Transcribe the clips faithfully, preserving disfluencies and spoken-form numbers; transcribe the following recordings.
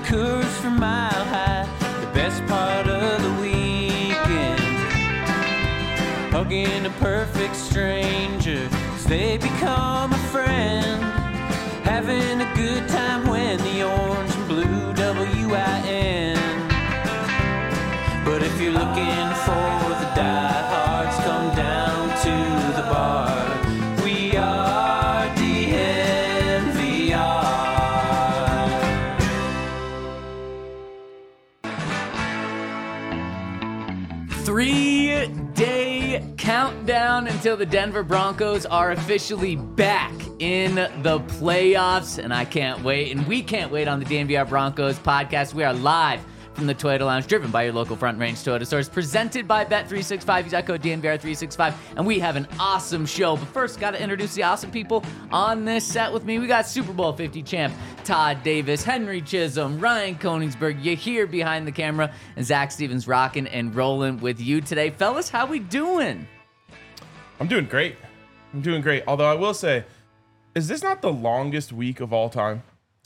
Coors from Mile High, the best part of the weekend. Hugging a perfect stranger as they become a friend. Having a good time when the orange and blue W I N. But if you're looking for the diehards, come down to the bar. We are D N V R. Three-day countdown until the Denver Broncos are officially back in the playoffs, and I can't wait, and we can't wait on the D N V R Broncos podcast. We are live from the Toyota Lounge, driven by your local Front Range Toyota stores, presented by Bet three sixty-five. Use that code D N V R three sixty-five, and we have an awesome show. But first, got to introduce the awesome people on this set with me. We got Super Bowl fifty champ Todd Davis, Henry Chisholm, Ryan Koenigsberg. You here behind the camera, and Zach Stevens rocking and rolling with you today. Fellas, how we doing? I'm doing great. I'm doing great. Although I will say, is this not the longest week of all time?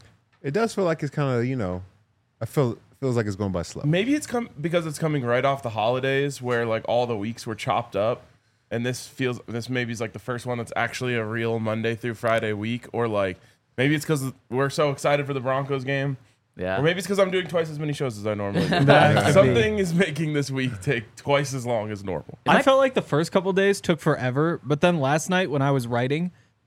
It does feel like it's kind of, you know, I feel feels like it's going by slow. Maybe it's come because it's coming right off the holidays where like all the weeks were chopped up, and this feels this maybe is like the first one that's actually a real Monday through Friday week, or like maybe it's because we're so excited for the Broncos game. Yeah. Or maybe it's because I'm doing twice as many shows as I normally do. That Something is making this week take twice as long as normal. I felt like the first couple days took forever, but then last night when I was writing,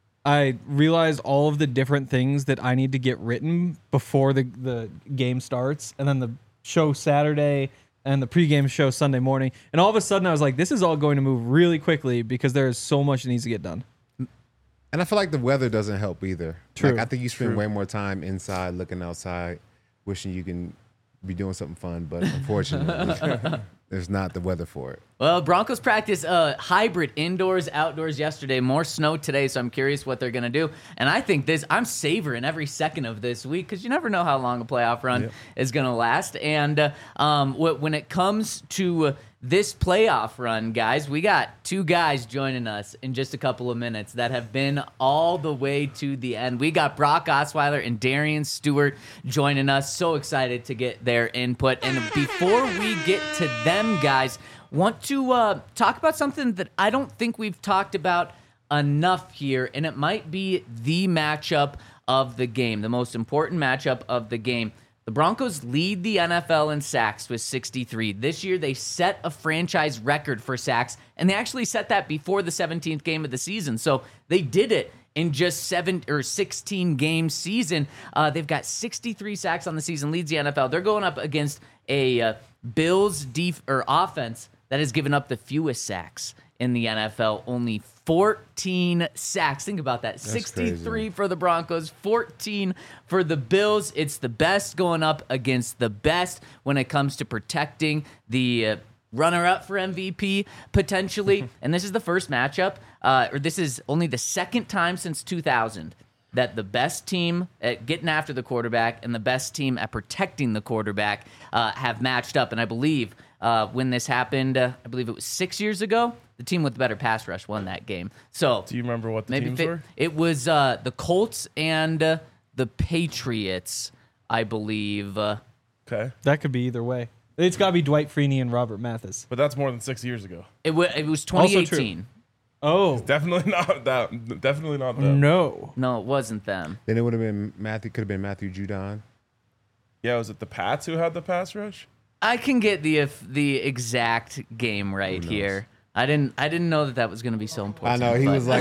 I realized all of the different things that I need to get written before the, the game starts, and then the show Saturday and the pregame show Sunday morning. And all of a sudden I was like, this is all going to move really quickly because there is so much that needs to get done. And I feel like the weather doesn't help either. True. Like, I think you spend True. way more time inside, looking outside, wishing you can be doing something fun, but unfortunately, there's not the weather for it. Well, Broncos practice uh, hybrid indoors, outdoors yesterday. More snow today, so I'm curious what they're going to do. And I think this, I'm savoring every second of this week because you never know how long a playoff run Yep. is going to last. And uh, um, wh- when it comes to uh, this playoff run, guys, we got two guys joining us in just a couple of minutes that have been all the way to the end. We got Brock Osweiler and Darian Stewart joining us. So excited to get their input. And before we get to them, guys, want to uh, talk about something that I don't think we've talked about enough here, and it might be the matchup of the game, the most important matchup of the game. The Broncos lead the N F L in sacks with sixty-three. This year, they set a franchise record for sacks, and they actually set that before the seventeenth game of the season. So they did it in just seven or sixteen game season. Uh, they've got sixty-three sacks on the season, leads the N F L. They're going up against a uh, Bills def- or offense that has given up the fewest sacks in the N F L, only fourteen sacks. Think about that. That's sixty-three crazy. for the Broncos, fourteen for the Bills. It's the best going up against the best when it comes to protecting the uh, runner-up for M V P, potentially. And this is the first matchup, uh, or this is only the second time since two thousand that the best team at getting after the quarterback and the best team at protecting the quarterback uh, have matched up. And I believe uh, when this happened, uh, I believe it was six years ago, the team with the better pass rush won that game. So Do you remember what the maybe teams fit, were? it was uh, the Colts and uh, the Patriots, I believe. Uh, Okay. That could be either way. It's got to be Dwight Freeney and Robert Mathis. But that's more than six years ago. it, w- it was Also twenty true. eighteen. Oh, Definitely not that. Definitely not them. no. No, it wasn't them. Then it would have been Matthew, could have been Matthew Judon. Yeah, was it the Pats who had the pass rush? I can get the if the exact game right knows? here. I didn't. I didn't know that that was going to be so I important. know, he but- was like,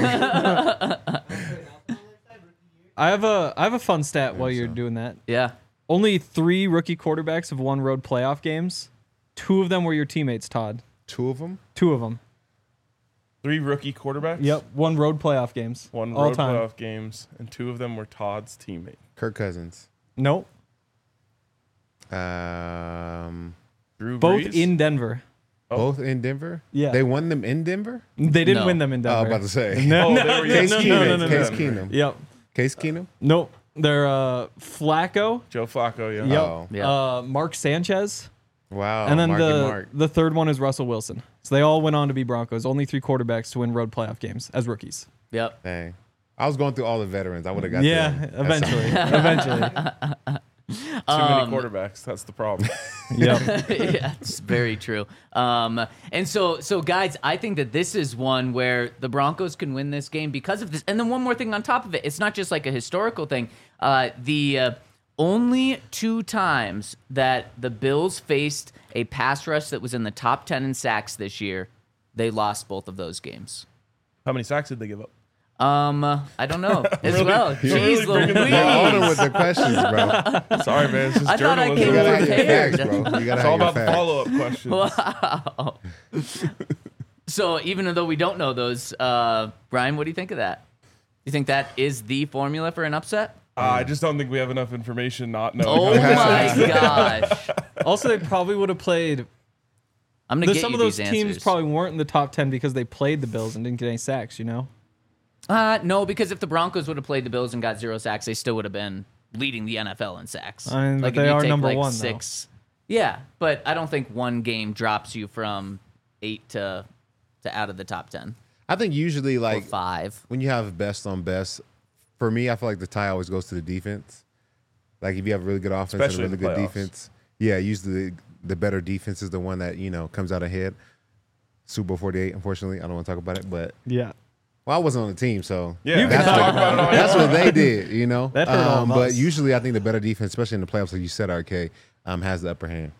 I have a I have a fun stat while you're so. doing that. yeah. Only three rookie quarterbacks have won road playoff games. Two of them were your teammates, Todd. two of them? Two of them. Three rookie quarterbacks. Yep, one road playoff games. One all road time. playoff games, and two of them were Todd's teammates. Kirk Cousins. Nope, Um, Drew both Brees? in Denver. Oh. Both in Denver? Yeah. They won them in Denver? They didn't No. win them in Oh, I Denver. was about to say. No, Oh, no, they were- no, Case no, Keenum. no, no, no, Case no. Keenum. Yep. Case Keenum? Nope. They're uh, Flacco. Joe Flacco, yeah. Yep. Oh. Yeah. Uh, Mark Sanchez. Wow. and then Marky the Mark. the third one is Russell Wilson. So they all went on to be Broncos. Only three quarterbacks to win road playoff games as rookies. Yep. Dang. I was going through all the veterans. I would have got Yeah, them. That's eventually. something. eventually. Too Um, many quarterbacks. That's the problem. Yep. Yeah, it's very true. Um, and so, so guys, I think that this is one where the Broncos can win this game because of this. And then one more thing on top of it, it's not just like a historical thing. Uh, the uh, only two times that the Bills faced a pass rush that was in the top ten in sacks this year, they lost both of those games. How many sacks did they give up? Um, I don't know as Really? well. You're really Jeez bringing the Louise. ball Order with the questions, bro. Sorry, man. It's just I thought I journalism. came You gotta have your prepared. facts, bro. You gotta It's have all your about the facts. follow-up questions. Wow. So even though we don't know those, uh, Brian, what do you think of that? You think that is the formula for an upset? Uh, I just don't think we have enough information not knowing. Oh how many my sacks. gosh! Also, they probably would have played. I'm gonna the- get some you of those these teams answers. probably weren't in the top ten because they played the Bills and didn't get any sacks. You know. Uh, no, because if the Broncos would have played the Bills and got zero sacks, they still would have been leading the N F L in sacks. I mean, but like if they you are take, number like, one, though. six. Yeah, but I don't think one game drops you from eight to to out of the top ten I think usually or like five. when you have best on best, for me, I feel like the tie always goes to the defense. Like if you have a really good offense Especially and a in really the good playoffs. defense, yeah, usually the, the better defense is the one that you know comes out ahead. Super Bowl forty-eight, unfortunately, I don't want to talk about it, but Yeah. well, I wasn't on the team, so Yeah, You that's can what, talk about it all that's what they did, you know. That hurt all um, of but us. usually, I think the better defense, especially in the playoffs, like you said, R K, um, has the upper hand.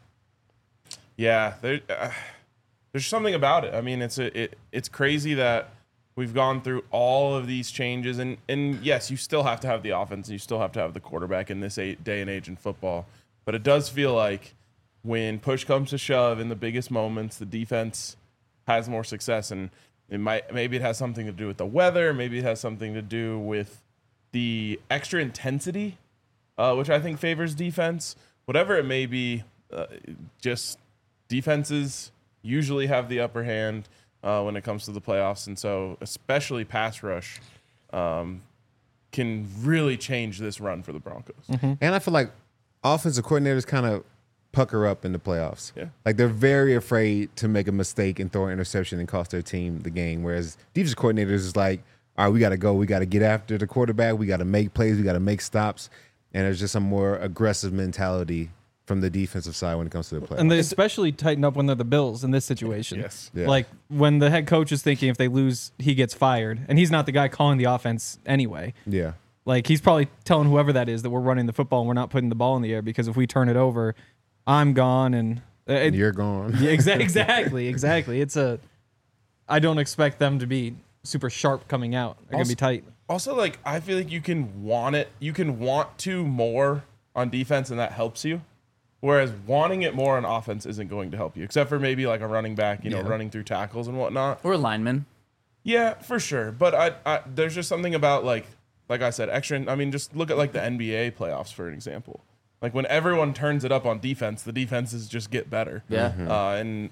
Yeah, there, uh, there's something about it. I mean, it's a, it, it's crazy that we've gone through all of these changes, and and yes, you still have to have the offense, and you still have to have the quarterback in this eight, day and age in football. But it does feel like when push comes to shove in the biggest moments, the defense has more success, and it might maybe it has something to do with the weather, maybe it has something to do with the extra intensity, uh, which I think favors defense. Whatever it may be, uh, just defenses usually have the upper hand uh, when it comes to the playoffs, and so especially pass rush um, can really change this run for the Broncos. And I feel like offensive coordinators kind of pucker up in the playoffs. Yeah. Like they're very afraid to make a mistake and throw an interception and cost their team the game. Whereas defensive coordinators is like, all right, we got to go. We got to get after the quarterback. We got to make plays. We got to make stops. And there's just a more aggressive mentality from the defensive side when it comes to the playoffs. And they especially tighten up when they're the Bills in this situation. Yes. Yeah. Like when the head coach is thinking if they lose, he gets fired. And he's not the guy calling the offense anyway. yeah. Like he's probably telling whoever that is that we're running the football and we're not putting the ball in the air because if we turn it over, I'm gone and uh, it, And you're gone. yeah, exa- exactly, exactly. It's a. I don't expect them to be super sharp coming out. They're gonna be tight. Also, like I feel like you can want it, you can want to more on defense, and that helps you. Whereas wanting it more on offense isn't going to help you, except for maybe like a running back, you know, Yeah. running through tackles and whatnot. Or a lineman. Yeah, for sure. But I, I, there's just something about like, like I said, extra. I mean, just look at like the N B A playoffs for an example. Like when everyone turns it up on defense, the defenses just get better. Yeah. Uh, and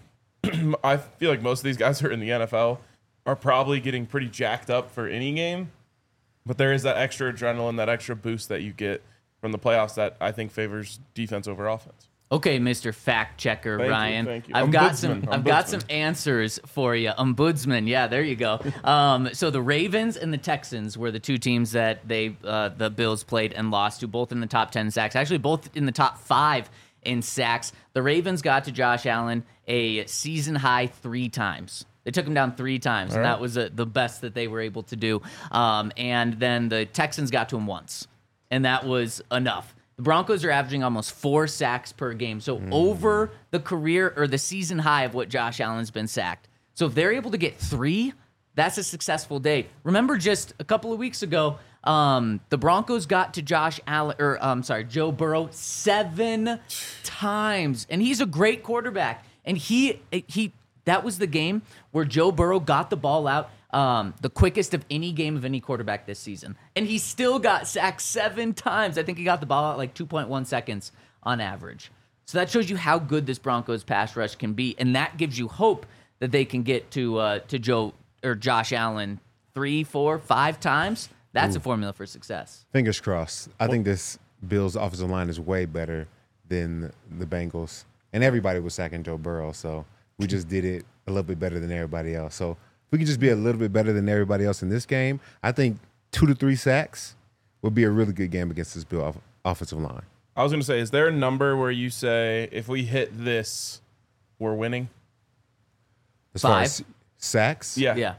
I feel like most of these guys who are in the N F L are probably getting pretty jacked up for any game. But there is that extra adrenaline, that extra boost that you get from the playoffs that I think favors defense over offense. Okay, Mister Fact Checker Thank you, Ryan. thank you. I've got some Ombudsman, I've got some ombudsman. answers for you. Ombudsman. Yeah, there you go. Um, so the Ravens and the Texans were the two teams that they uh, the Bills played and lost to, both in the top ten sacks. Actually, both in the top five in sacks. The Ravens got to Josh Allen a season high three times. They took him down three times, and right. that was uh, the best that they were able to do. Um, and then the Texans got to him once, and that was enough. The Broncos are averaging almost four sacks per game. So over the career or the season high of what Josh Allen's been sacked. So if they're able to get three, that's a successful day. Remember just a couple of weeks ago, um, the Broncos got to Josh Allen, or I'm sorry, Joe Burrow seven times. And he's a great quarterback. And he he that was the game where Joe Burrow got the ball out Um, the quickest of any game of any quarterback this season. And he still got sacked seven times. I think he got the ball out like two point one seconds on average. So that shows you how good this Broncos pass rush can be. And that gives you hope that they can get to uh, to Joe or Josh Allen three, four, five times. That's a formula for success. Fingers crossed. I think this Bills offensive line is way better than the Bengals. And everybody was sacking Joe Burrow, so we just did it a little bit better than everybody else. So if we could just be a little bit better than everybody else in this game, I think two to three sacks would be a really good game against this Bill off- offensive line. I was going to say, is there a number where you say if we hit this, we're winning? As far Five. as sacks, Yeah. Yeah.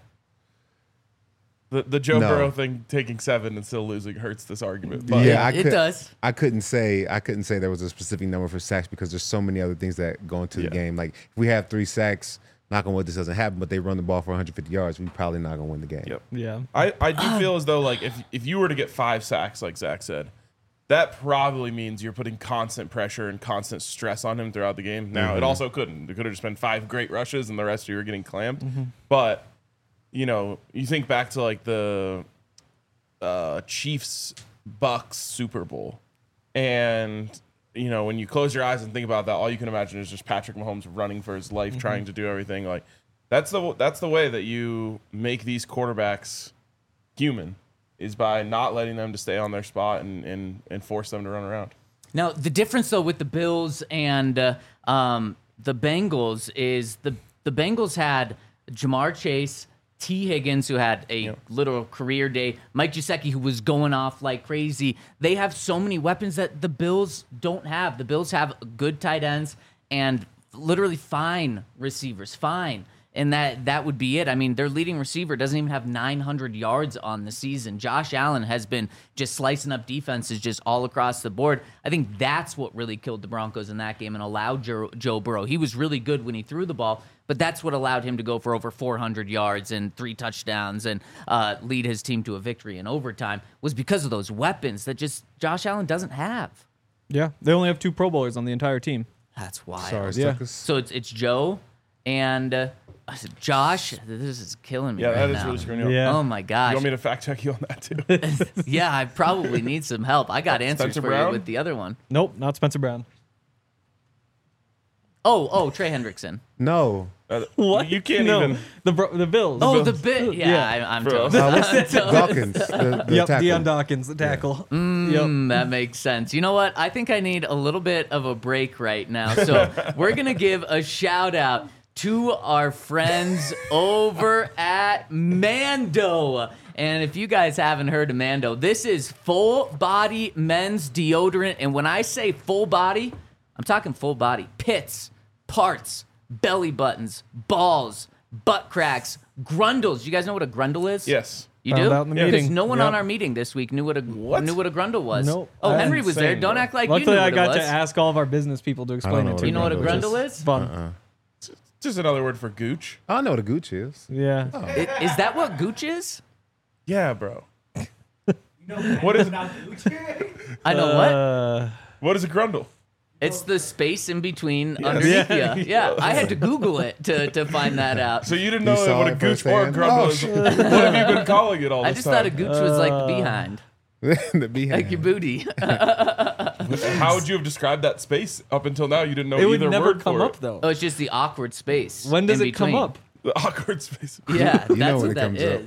The the Joe No. Burrow thing, taking seven and still losing, hurts this argument. But yeah, I it could, does. I couldn't say I couldn't say there was a specific number for sacks because there's so many other things that go into Yeah. the game. Like if we have three sacks, knock on wood, this doesn't happen, but they run the ball for one hundred fifty yards, we probably not gonna win the game. Yep. Yeah. I, I do feel as though like if if you were to get five sacks, like Zach said, that probably means you're putting constant pressure and constant stress on him throughout the game. Now it also couldn't. It could have just been five great rushes and the rest of you were getting clammed. But you know, you think back to like the uh, Chiefs Bucks Super Bowl, and you know when you close your eyes and think about that, all you can imagine is just Patrick Mahomes running for his life, trying to do everything. Like that's the that's the way that you make these quarterbacks human, is by not letting them to stay on their spot and and, and force them to run around. Now, the difference, though, with the Bills and uh, um, the Bengals is the, the Bengals had Jamar Chase, T. Higgins, who had a Yep. literal career day, Mike Gesicki, who was going off like crazy. They have so many weapons that the Bills don't have. The Bills have good tight ends and literally fine receivers, fine. And that that would be it. I mean, their leading receiver doesn't even have nine hundred yards on the season. Josh Allen has been just slicing up defenses just all across the board. I think that's what really killed the Broncos in that game and allowed Joe, Joe Burrow. He was really good when he threw the ball, but that's what allowed him to go for over four hundred yards and three touchdowns and uh, lead his team to a victory in overtime, was because of those weapons that just Josh Allen doesn't have. Yeah. They only have two Pro Bowlers on the entire team. That's wild. Sorry, Yeah. suckers. So it's it's Joe and uh, I said, Josh. This is killing me. Yeah, right that is now. really screwing you up. Yeah. Oh my gosh. You want me to fact check you on that too? Yeah, I probably need some help. I got answers Spencer for Brown? you with the other one. Nope, not Spencer Brown. Oh, oh, Trey Hendrickson. No. Uh, What? You can't no. even. The bro- the Bills. Oh, the the bit. Yeah, Yeah. I, I'm Bro. toast. Uh, what's I'm toast. Dawkins, the, the Yep, tackle. Deion Dawkins, the tackle. Yep. Mm, that makes sense. You know what? I think I need a little bit of a break right now. So we're going to give a shout out to our friends over at Mando. And if you guys haven't heard of Mando, this is full body men's deodorant. And when I say full body, I'm talking full body. Pits, parts, belly buttons, balls, butt cracks, grundles. You guys know what a grundle is? Yes. You Found do? out in the Yeah. Because meeting. no one Yep. on our meeting this week knew what a What? knew what a grundle was. Nope. Oh, That's Henry was there. insane, Don't bro. act like you Luckily, knew I what got it to was. ask all of our business people to explain know it what to a You know what a grundle grundle It's is? fun. Just another word for gooch. I know what a gooch is. Yeah. I- Is that what gooch is? Yeah, bro. What is I know what. Uh, what is a grundle? It's the space in between underneath Yeah. you. Yeah, I had to Google it to, to find that out. So you didn't You know saw what a it gooch or a firsthand? grundle Oh, is. shit. What have you been calling it all I this just time? thought a gooch was like the behind, the behind. like your booty. How would you have described that space up until now? You didn't know it would either never word come for up it. though. Oh, it's just the awkward space. When does in it come between. up? The awkward space. Yeah, You know that's when what it that comes up. is.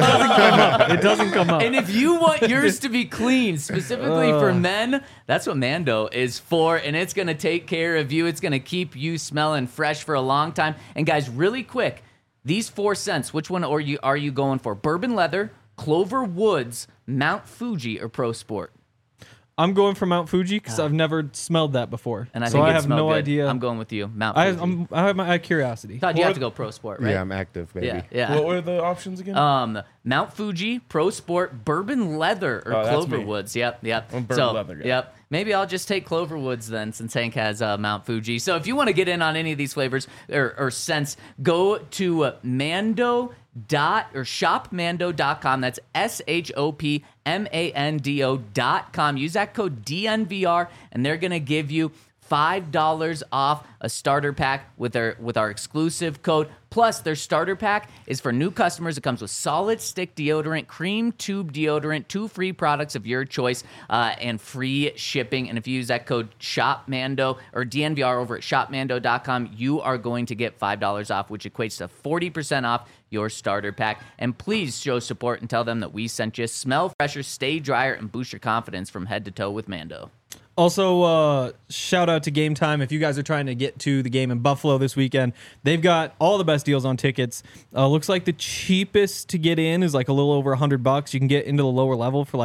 It doesn't come up. And if you want yours to be clean, specifically for men, that's what Mando is for. And it's going to take care of you. It's going to keep you smelling fresh for a long time. And guys, really quick, these four scents, which one are you, are you going for? Bourbon Leather, Clover Woods, Mount Fuji, or Pro Sport? I'm going for Mount Fuji because I've never smelled that before, And I so think I it have smelled no good. idea. I'm going with you, Mount I, Fuji. I'm, I have my I have curiosity. Todd, you have What- to go Pro Sport, right? Yeah, I'm active, baby. yeah, yeah. What were the options again? Um, Mount Fuji, Pro Sport, Bourbon Leather, or Oh, that's Clover me. Woods. Yep, yep. I'm a Bourbon so, Leather guy. Yep. Maybe I'll just take Clover Woods then, since Hank has uh, Mount Fuji. So if you want to get in on any of these flavors or, or scents, go to uh, Mando dot or shop mando dot com. That's S H O P M A N D O dot com. Use that code D N V R, and they're gonna give you five dollars off a starter pack with our with our exclusive code. Plus, their starter pack is for new customers. It comes with solid stick deodorant, cream tube deodorant, two free products of your choice, uh, and free shipping. And if you use that code SHOPMANDO or D N V R over at shop mando dot com, you are going to get five dollars off, which equates to forty percent off your starter pack. And please show support and tell them that we sent you. Smell fresher, stay drier, and boost your confidence from head to toe with Mando. Also, uh, shout out to Game Time. If you guys are trying to get to the game in Buffalo this weekend, they've got all the best deals on tickets. Uh, looks like the cheapest to get in is like a little over a hundred bucks. You can get into the lower level for like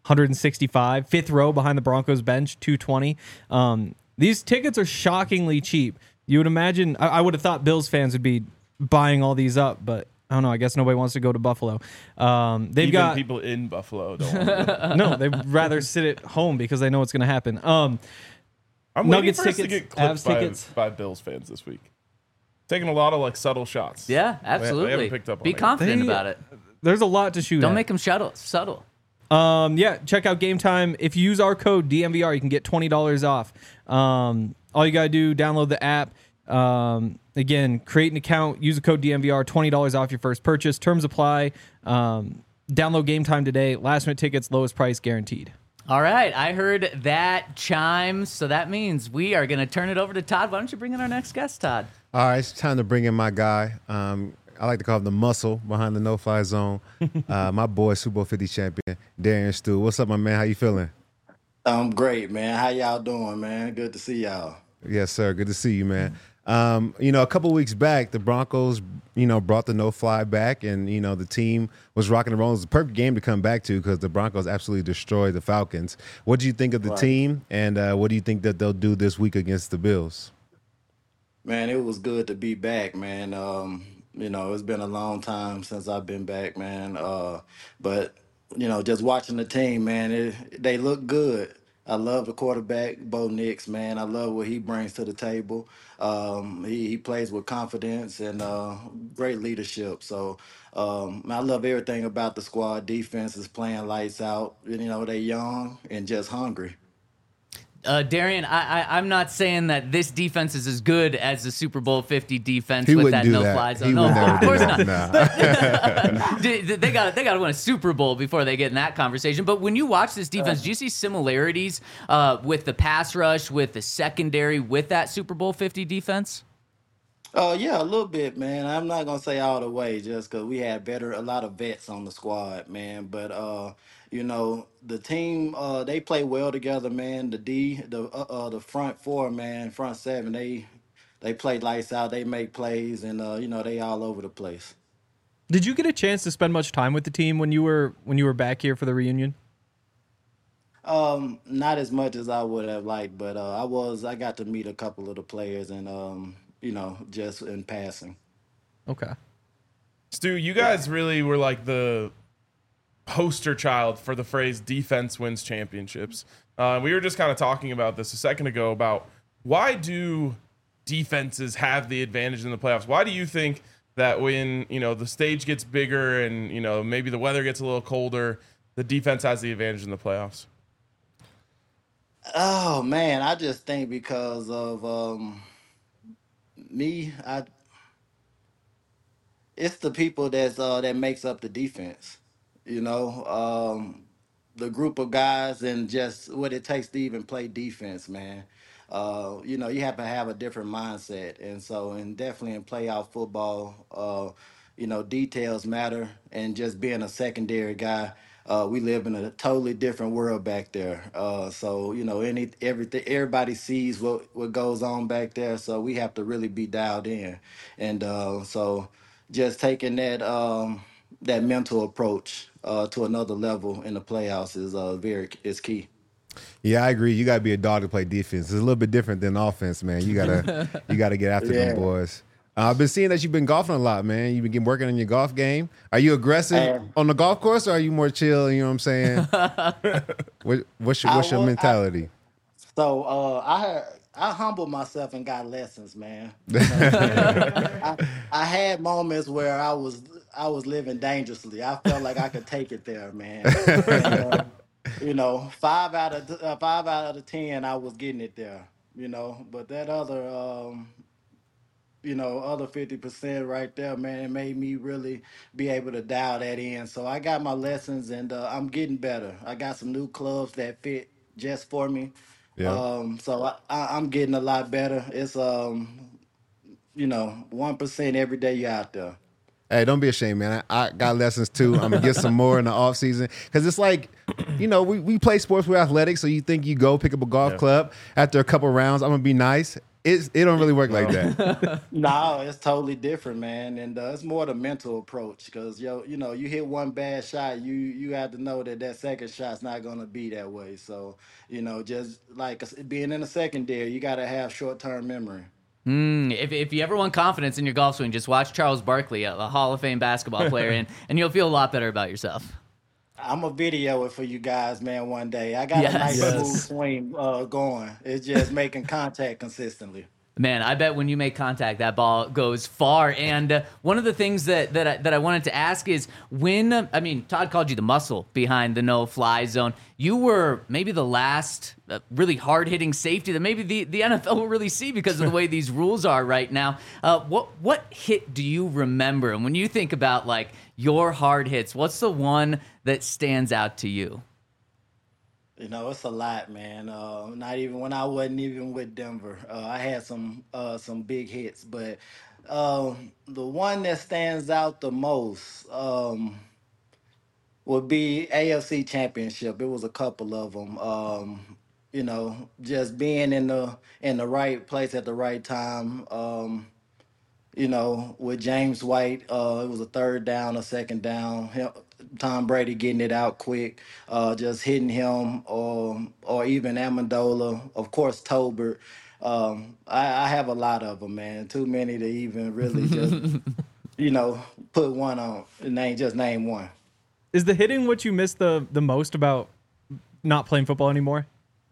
one sixty-five. Fifth row behind the Broncos bench, two twenty. Um, these tickets are shockingly cheap. You would imagine, I, I would have thought Bills fans would be buying all these up, but I don't know. I guess nobody wants to go to Buffalo. Um, they've Even got people in Buffalo don't want to go. no. They'd rather sit at home because they know what's going to happen. Um, I'm Nuggets waiting for us to tickets, get clipped Avs by, tickets. by Bills fans this week. Taking a lot of like subtle shots. Yeah, They- they haven't absolutely. picked up on Be it. confident They- about it. there's a lot to shoot. Don't at. make them shuttle, subtle. Um, yeah, check out Game Time. If you use our code D M V R, you can get twenty dollars off. Um, all you got to do, download the app. Um, again, create an account, use the code D M V R, twenty dollars off your first purchase. Terms apply. Um, download Game Time today. Last minute tickets, lowest price guaranteed. All right, I heard that chime, so that means we are going to turn it over to Todd. Why don't you bring in our next guest, Todd? All right, it's time to bring in my guy. Um, I like to call him the muscle behind the no-fly zone. uh, my boy, Super Bowl fifty champion, Darian Stu. What's up, my man? How you feeling? I'm great, man. How y'all doing, man? Good to see y'all. Yes, sir. Good to see you, man. Um, you know, a couple weeks back, the Broncos, you know, brought the no-fly back, and you know the team was rocking and rolling. It was a perfect game to come back to because the Broncos absolutely destroyed the Falcons. What do you think of the Right. team, and uh, what do you think that they'll do this week against the Bills? Man, it was good to be back, man. Um, you know, it's been a long time since I've been back, man. Uh, but you know, just watching the team, man, it, they look good. I love the quarterback, Bo Nix, man. I love what he brings to the table. Um, he, he plays with confidence and uh, great leadership. So um, I love everything about the squad. Defense is playing lights out. You know, they young and just hungry. Uh, Darian, I, I, I'm not saying that this defense is as good as the Super Bowl fifty defense He with wouldn't that do no-fly that. zone. He No, would never of do course that. not. Nah. They they got they got to win a Super Bowl before they get in that conversation. But when you watch this defense, do you see similarities uh, with the pass rush, with the secondary, with that Super Bowl fifty defense? Uh, yeah, a little bit, man. I'm not gonna say all the way, just because we had better, a lot of vets on the squad, man. But uh, you know, the team, uh, they play well together, man. The D, the uh, uh the front four, man, front seven, they they play lights out. They make plays, and uh, you know, they all over the place. Did you get a chance to spend much time with the team when you were when you were back here for the reunion? Um, not as much as I would have liked, but uh, I was, I got to meet a couple of the players, and um, you know, just in passing. Okay. Stu, you guys really were like the poster child for the phrase defense wins championships. Uh, we were just kind of talking about this a second ago about why do defenses have the advantage in the playoffs? Why do you think that when, you know, the stage gets bigger and, you know, maybe the weather gets a little colder, the defense has the advantage in the playoffs? Oh man, I just think because of um me, I it's the people that's uh that makes up the defense. You know, um the group of guys and just what it takes to even play defense, man. Uh, you know, you have to have a different mindset. And so and definitely in playoff football, uh, you know, details matter and just being a secondary guy. Uh, we live in a totally different world back there. Uh, so you know, any everything everybody sees what what goes on back there. So we have to really be dialed in, and uh, so just taking that um, that mental approach uh, to another level in the playoffs is uh, very is key. Yeah, I agree. You got to be a dog to play defense. It's a little bit different than offense, man. You gotta you gotta get after Yeah. them boys. Uh, I've been seeing that you've been golfing a lot, man. You've been getting- working on your golf game. Are you aggressive Uh, on the golf course, or are you more chill? You know what I'm saying? what, what's your I what's your wa- I- mentality? So uh, I had, I humbled myself and got lessons, man. You know, I, I had moments where I was I was living dangerously. I felt like I could take it there, man. And, uh, you know, five out of uh, five out of ten, I was getting it there. You know, but that other um, you know, other fifty percent right there, man, it made me really be able to dial that in. So I got my lessons and uh, I'm getting better. I got some new clubs that fit just for me. Yeah. Um, so I, I, I'm getting a lot better. It's, um, you know, one percent every day you're out there. Hey, don't be ashamed, man. I, I got lessons too. I'm gonna get some more in the off season because it's like, you know, we, we play sports, we're athletic. So you think you go pick up a golf Yeah. club after a couple rounds, I'm gonna be nice. it's, it don't really work like that. No, it's totally different, man, and uh, it's more the mental approach because yo, you know, you hit one bad shot, you you have to know that that second shot's not gonna be that way. So, you know, just like us- being in the secondary, you got to have short term memory. Mm, if, if you ever want confidence in your golf swing, just watch Charles Barkley, a, a Hall of Fame basketball player, and, and you'll feel a lot better about yourself. I'm gonna video it for you guys, man. One day, I got Yes. a nice Yes. smooth swing uh, going. It's just making contact consistently. Man, I bet when you make contact, that ball goes far. And uh, one of the things that that I, that I wanted to ask is when, uh, I mean, Todd called you the muscle behind the no-fly zone. You were maybe the last uh, really hard-hitting safety that maybe the, the N F L will really see because of the way these rules are right now. Uh, what what hit do you remember? And when you think about, like, your hard hits, what's the one that stands out to you? You know, it's a lot, man. Uh, not even when I wasn't even with Denver, uh, I had some uh, some big hits, but um, the one that stands out the most um, would be A F C Championship. It was a couple of them. Um, you know, just being in the in the right place at the right time. Um, you know, with James White, uh, it was a third down, a second down. Him, Tom Brady getting it out quick, uh, just hitting him, or or even Amendola, of course, Tolbert. Um, I, I have a lot of them, man. Too many to even really just, you know, put one on. Name just name one. Is the hitting what you miss the the most about not playing football anymore?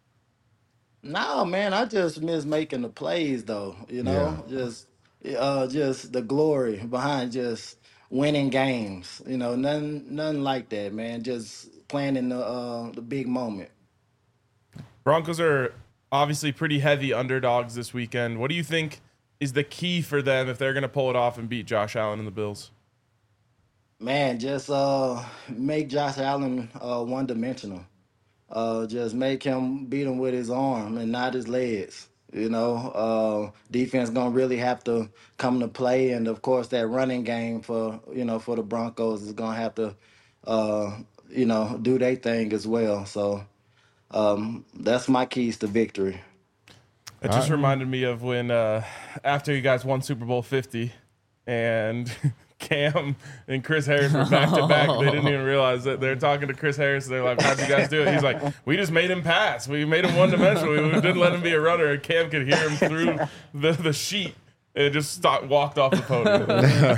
No, man, I just miss making the plays though. You know, just uh just the glory behind just winning games. You know, nothing nothing like that, man. Just playing in the uh the big moment. Broncos are obviously pretty heavy underdogs this weekend. What do you think is the key for them if they're going to pull it off and beat Josh Allen and the Bills? Man, just uh make Josh Allen uh one dimensional. Uh, just make him beat him with his arm and not his legs. You know, uh, defense gonna really have to come to play, and of course that running game for you know for the Broncos is gonna have to, uh, you know, do their thing as well. So um, that's my keys to victory. It just reminded me of when uh, after you guys won Super Bowl fifty and Cam and Chris Harris were back to back. They didn't even realize that they're talking to Chris Harris. They're like, "How'd you guys do it?" He's like, "We just made him pass. We made him one dimensional. We didn't let him be a runner." And Cam could hear him through the, the sheet and just stopped, walked off the podium.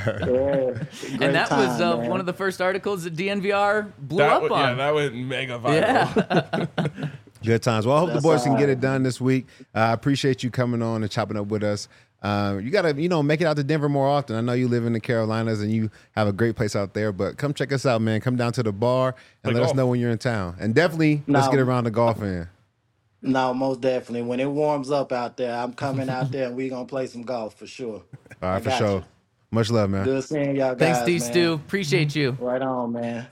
Yeah, And that was uh, one of the first articles that D N V R blew That up w- on. yeah, that went mega viral. Yeah. Good times. Well, I hope That's the boys can all get right. it done this week. Uh, I appreciate you coming on and chopping up with us. Uh, you got to, you know, make it out to Denver more often. I know you live in the Carolinas and you have a great place out there, but come check us out, man. Come down to the bar and Play let us golf. know when you're in town. And definitely, let's No. get around the golf in. No, most definitely. When it warms up out there, I'm coming out there and we gonna play some golf for sure. All I right, for got sure. you. Much love, man. Good seeing y'all Thanks, guys, D. man. Stu. Appreciate you. Right on, man.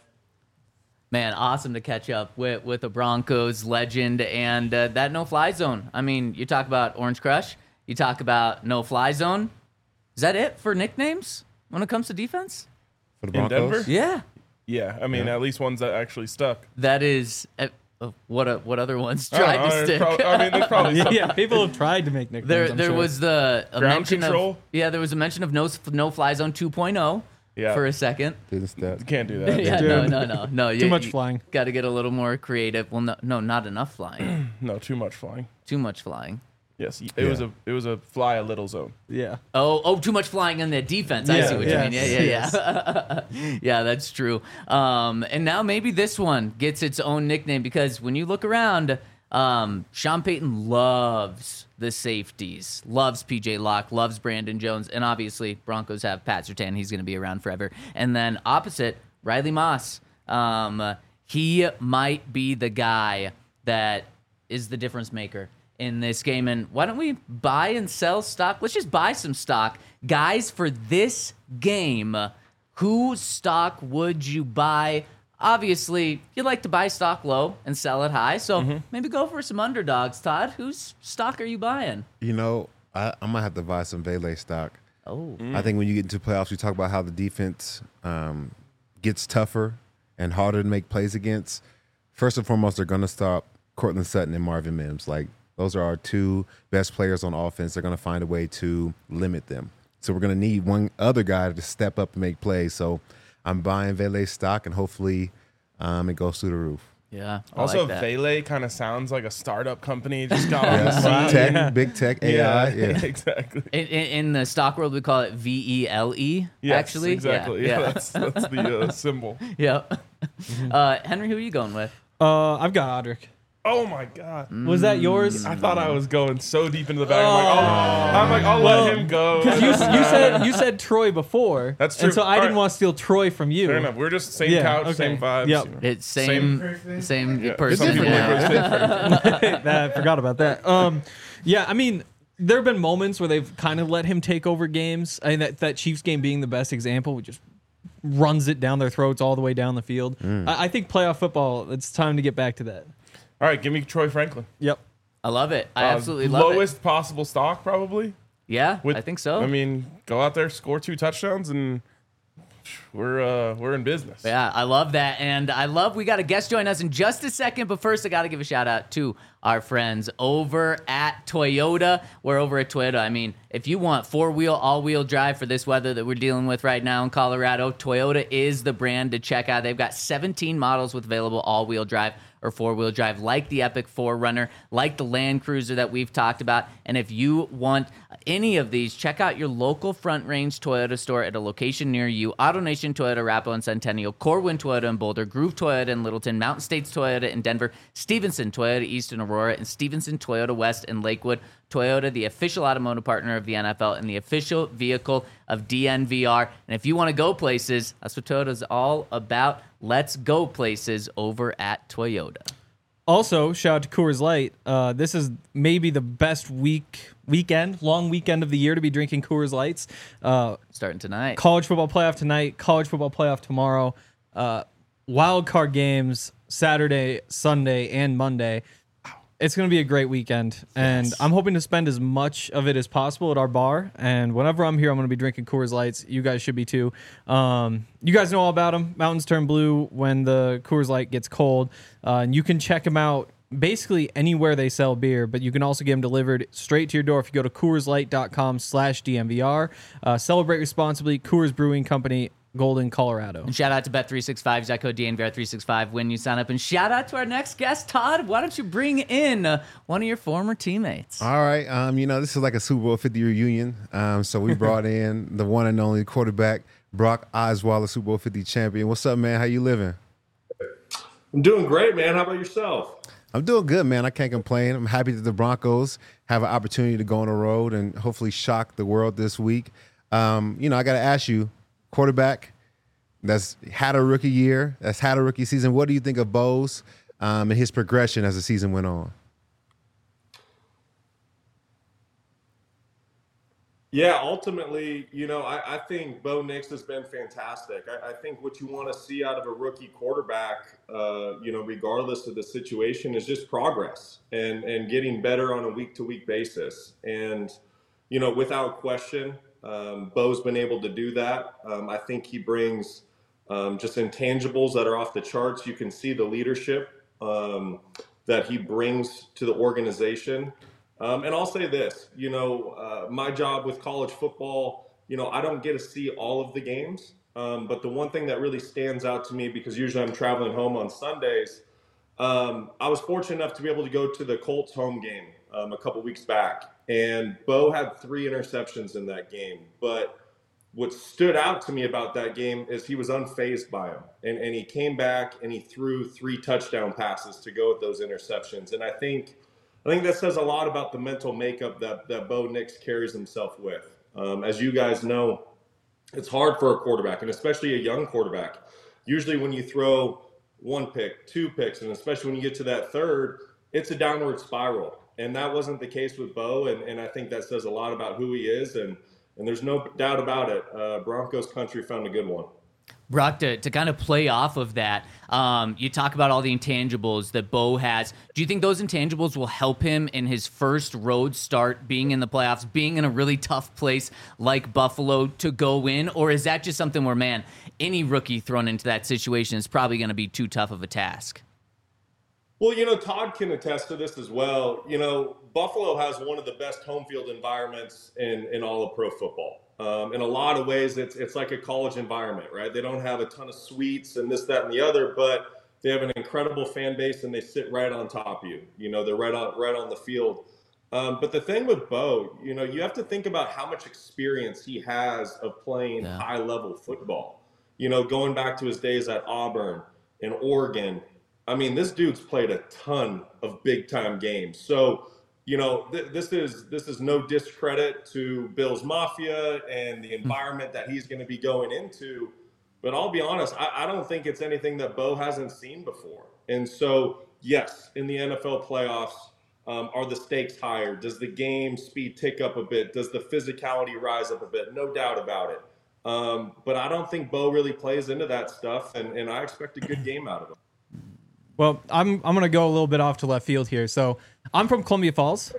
Man, awesome to catch up with with a Broncos legend and uh, that no-fly zone. I mean, you talk about Orange Crush. You talk about no-fly zone. Is that it for nicknames when it comes to defense? For the In Broncos. Denver? Yeah, Yeah, I mean, at least ones that actually stuck. that is. Uh, uh, what uh, what other ones I don't tried know, to there's stick? prob- I mean, there's probably some. Yeah, people have tried to make nicknames. there I'm there sure. was the a Ground mention control? of yeah there was a mention of no no-fly zone two point oh Yeah. for a second. Didn't step. You can't do that. Yeah, no, no, no, no. Too much flying. Got to get a little more creative. Well, no, no, not enough flying. No, too much flying. Too much flying. Yes, it Yeah. was a it was a fly a little zone. Yeah. Oh, oh, too much flying in the defense. I Yeah, see what yes, you mean. Yeah, yeah, yeah. Yeah, that's true. Um, and now maybe this one gets its own nickname because when you look around, um, Sean Payton loves the safeties, loves P J Locke, loves Brandon Jones, and obviously Broncos have Pat Surtain. He's going to be around forever. And then opposite, Riley Moss. Um, he might be the guy that is the difference maker in this game. And why don't we buy and sell stock? Let's just buy some stock. Guys, for this game, whose stock would you buy? Obviously, you like to buy stock low and sell it high. So maybe go for some underdogs, Todd. Whose stock are you buying? You know, I, I might have to buy some Vele stock. Oh, I think when you get into playoffs, we talk about how the defense um, gets tougher and harder to make plays against. First and foremost, they're going to stop Cortland Sutton and Marvin Mims. Like, Those are our two best players on offense. They're going to find a way to limit them. So we're going to need one other guy to step up and make plays. So I'm buying Vele stock, and hopefully um, it goes through the roof. Yeah. I Also, like that. Vele kind of sounds like a startup company just got on the Yeah. scene. Tech, Yeah. big tech, A I. Yeah. exactly. In, in, in the stock world, we call it V E L E. Yes, actually, exactly. Yeah. Yeah, yeah. that's that's the uh, symbol. Yep. Uh, Henry, who are you going with? Uh, I've got Odrick. Oh my god! Was that yours? I thought I was going so deep into the bag. I'm like, oh, I'm like, I'll Well, let him go. Because you, you said you said Troy before. That's And true. so I All didn't right. want to steal Troy from you. Fair enough. We're just same Yeah, couch, okay. same vibes. Yep. you know. It's same, same, Yeah, person. some people yeah. like we're same. I forgot about that. Um, yeah, I mean, there have been moments where they've kind of let him take over games. I mean, that, that Chiefs game being the best example, we just runs it down their throats all the way down the field. I, I think playoff football, it's time to get back to that. All right, give me Troy Franklin. Yep. I love it. I Uh, absolutely love lowest it. possible stock, probably. Yeah, With- I think so. I mean, go out there, score two touchdowns, and we're uh, we're in business. Yeah, I love that. And I love we got a guest join us in just a second. But first, I got to give a shout out to our friends over at Toyota. We're over at Toyota. I mean, if you want four-wheel, all-wheel drive for this weather that we're dealing with right now in Colorado, Toyota is the brand to check out. They've got seventeen models with available all-wheel drive or four-wheel drive, like the Epic four runner, like the Land Cruiser that we've talked about. And if you want any of these, check out your local Front Range Toyota store at a location near you. AutoNation Toyota, Arapahoe and Centennial, Corwin Toyota in Boulder, Groove Toyota in Littleton, Mountain States Toyota in Denver, Stevenson Toyota East in Aurora, and Stevenson Toyota West in Lakewood. Toyota, the official automotive partner of the N F L and the official vehicle of D N V R. And if you want to go places, that's what Toyota's all about. Let's go places over at Toyota. Also, shout out to Coors Light. Uh, this is maybe the best week, weekend, long weekend of the year to be drinking Coors Lights. Uh, Starting tonight. college football playoff tonight, college football playoff tomorrow, uh, wild card games Saturday, Sunday, and Monday. It's going to be a great weekend, and I'm hoping to spend as much of it as possible at our bar. And whenever I'm here, I'm going to be drinking Coors Lights. You guys should be too. Um, you guys know all about them. Mountains turn blue when the Coors Light gets cold, uh, and you can check them out basically anywhere they sell beer, but you can also get them delivered straight to your door if you go to CoorsLight.com slash DMVR. Uh, celebrate responsibly. Coors Brewing Company, Golden, Colorado. And shout out to Bet three sixty-five, use that code D N V R three sixty-five when you sign up. And shout out to our next guest, Todd. Why don't you bring in uh, one of your former teammates? All right. Um, you know, this is like a Super Bowl fifty reunion. Um, so we brought in the one and only quarterback, Brock Osweiler, Super Bowl fifty champion. What's up, man? How you living? I'm doing great, man. How about yourself? I'm doing good, man. I can't complain. I'm happy that the Broncos have an opportunity to go on the road and hopefully shock the world this week. Um, you know, I got to ask you, quarterback that's had a rookie year, that's had a rookie season. What do you think of Bose um, and his progression as the season went on? Yeah, ultimately, you know, I, I think Bo Nix has been fantastic. I, I think what you want to see out of a rookie quarterback, uh, you know, regardless of the situation, is just progress and, and getting better on a week-to-week basis. And, you know, without question, um, Bo's been able to do that. Um, I think he brings um, just intangibles that are off the charts. You can see the leadership um, that he brings to the organization. Um, and I'll say this, you know, uh, my job with college football, you know, I don't get to see all of the games. Um, but the one thing that really stands out to me, because usually I'm traveling home on Sundays, um, I was fortunate enough to be able to go to the Colts home game um, a couple weeks back. And Bo had three interceptions in that game. But what stood out to me about that game is he was unfazed by them. And, and he came back and he threw three touchdown passes to go with those interceptions. And I think I think that says a lot about the mental makeup that, that Bo Nix carries himself with. Um, as you guys know, it's hard for a quarterback, and especially a young quarterback. Usually when you throw one pick, two picks, and especially when you get to that third, it's a downward spiral. And that wasn't the case with Bo, and, and I think that says a lot about who he is, and, and there's no doubt about it. Uh, Broncos country found a good one. Brock, to, to kind of play off of that, um, you talk about all the intangibles that Bo has. Do you think those intangibles will help him in his first road start, being in the playoffs, being in a really tough place like Buffalo to go in? Or is that just something where, man, any rookie thrown into that situation is probably going to be too tough of a task? Well, you know, Todd can attest to this as well. You know, Buffalo has one of the best home field environments in, in all of pro football. Um, in a lot of ways, it's it's like a college environment, right? They don't have a ton of suites and this, that, and the other, but they have an incredible fan base and they sit right on top of you. You know, they're right on right on the field. Um, but the thing with Bo, you know, you have to think about how much experience he has of playing Yeah. high level football. You know, going back to his days at Auburn and Oregon. I mean, this dude's played a ton of big time games. So, you know, th- this is this is no discredit to Bills Mafia and the environment that he's going to be going into. But I'll be honest, I, I don't think it's anything that Bo hasn't seen before. And so, yes, in the N F L playoffs, um, are the stakes higher? Does the game speed tick up a bit? Does the physicality rise up a bit? No doubt about it. Um, but I don't think Bo really plays into that stuff, and, and I expect a good game out of him. Well, I'm I'm gonna go a little bit off to left field here. So I'm from Columbia Falls.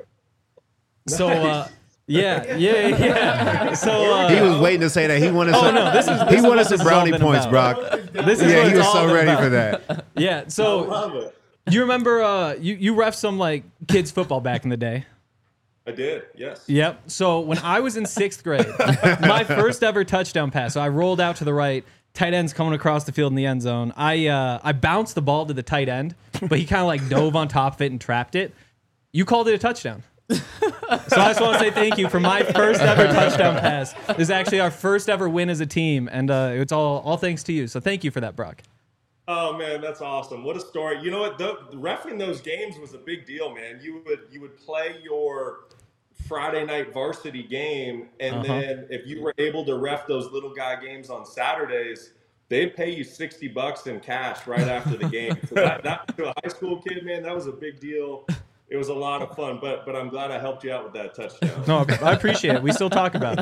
So uh, yeah, yeah, yeah. So uh, He was waiting to say that. He wanted Oh, some. no, this is- this he is wanted what some this has all brownie been points, about. Brock. this is Yeah, what he it's was all so been ready about. for that. Yeah. I So love it. you remember uh, you you ref some like kids football back in the day? I did, yes. Yep. So when I was in sixth grade, my first ever touchdown pass. So I rolled out to the right. Tight end's coming across the field in the end zone. I uh, I bounced the ball to the tight end, but he kind of like dove on top of it and trapped it. You called it a touchdown. So I just want to say thank you for my first ever touchdown pass. This is actually our first ever win as a team, and uh, it's all all thanks to you. So thank you for that, Brock. Oh man, that's awesome! What a story. You know what? The, reffing those games was a big deal, man. You would you would play your Friday night varsity game, and Uh-huh. then if you were able to ref those little guy games on Saturdays, they'd pay you sixty bucks in cash right after the game. So that, that to a high school kid, man, that was a big deal. It was a lot of fun, but but I'm glad I helped you out with that touchdown. No, I appreciate it. We still talk about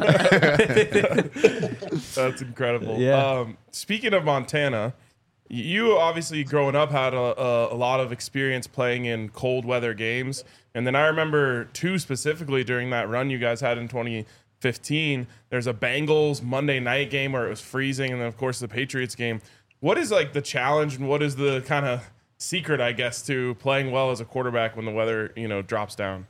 it. That's incredible. Yeah. Um, speaking of Montana, you obviously growing up had a, a, a lot of experience playing in cold weather games. And then I remember two specifically during that run you guys had in twenty fifteen. There's a Bengals Monday night game where it was freezing. And then, of course, the Patriots game. What is like the challenge and what is the kind of secret, I guess, to playing well as a quarterback when the weather, you know, drops down?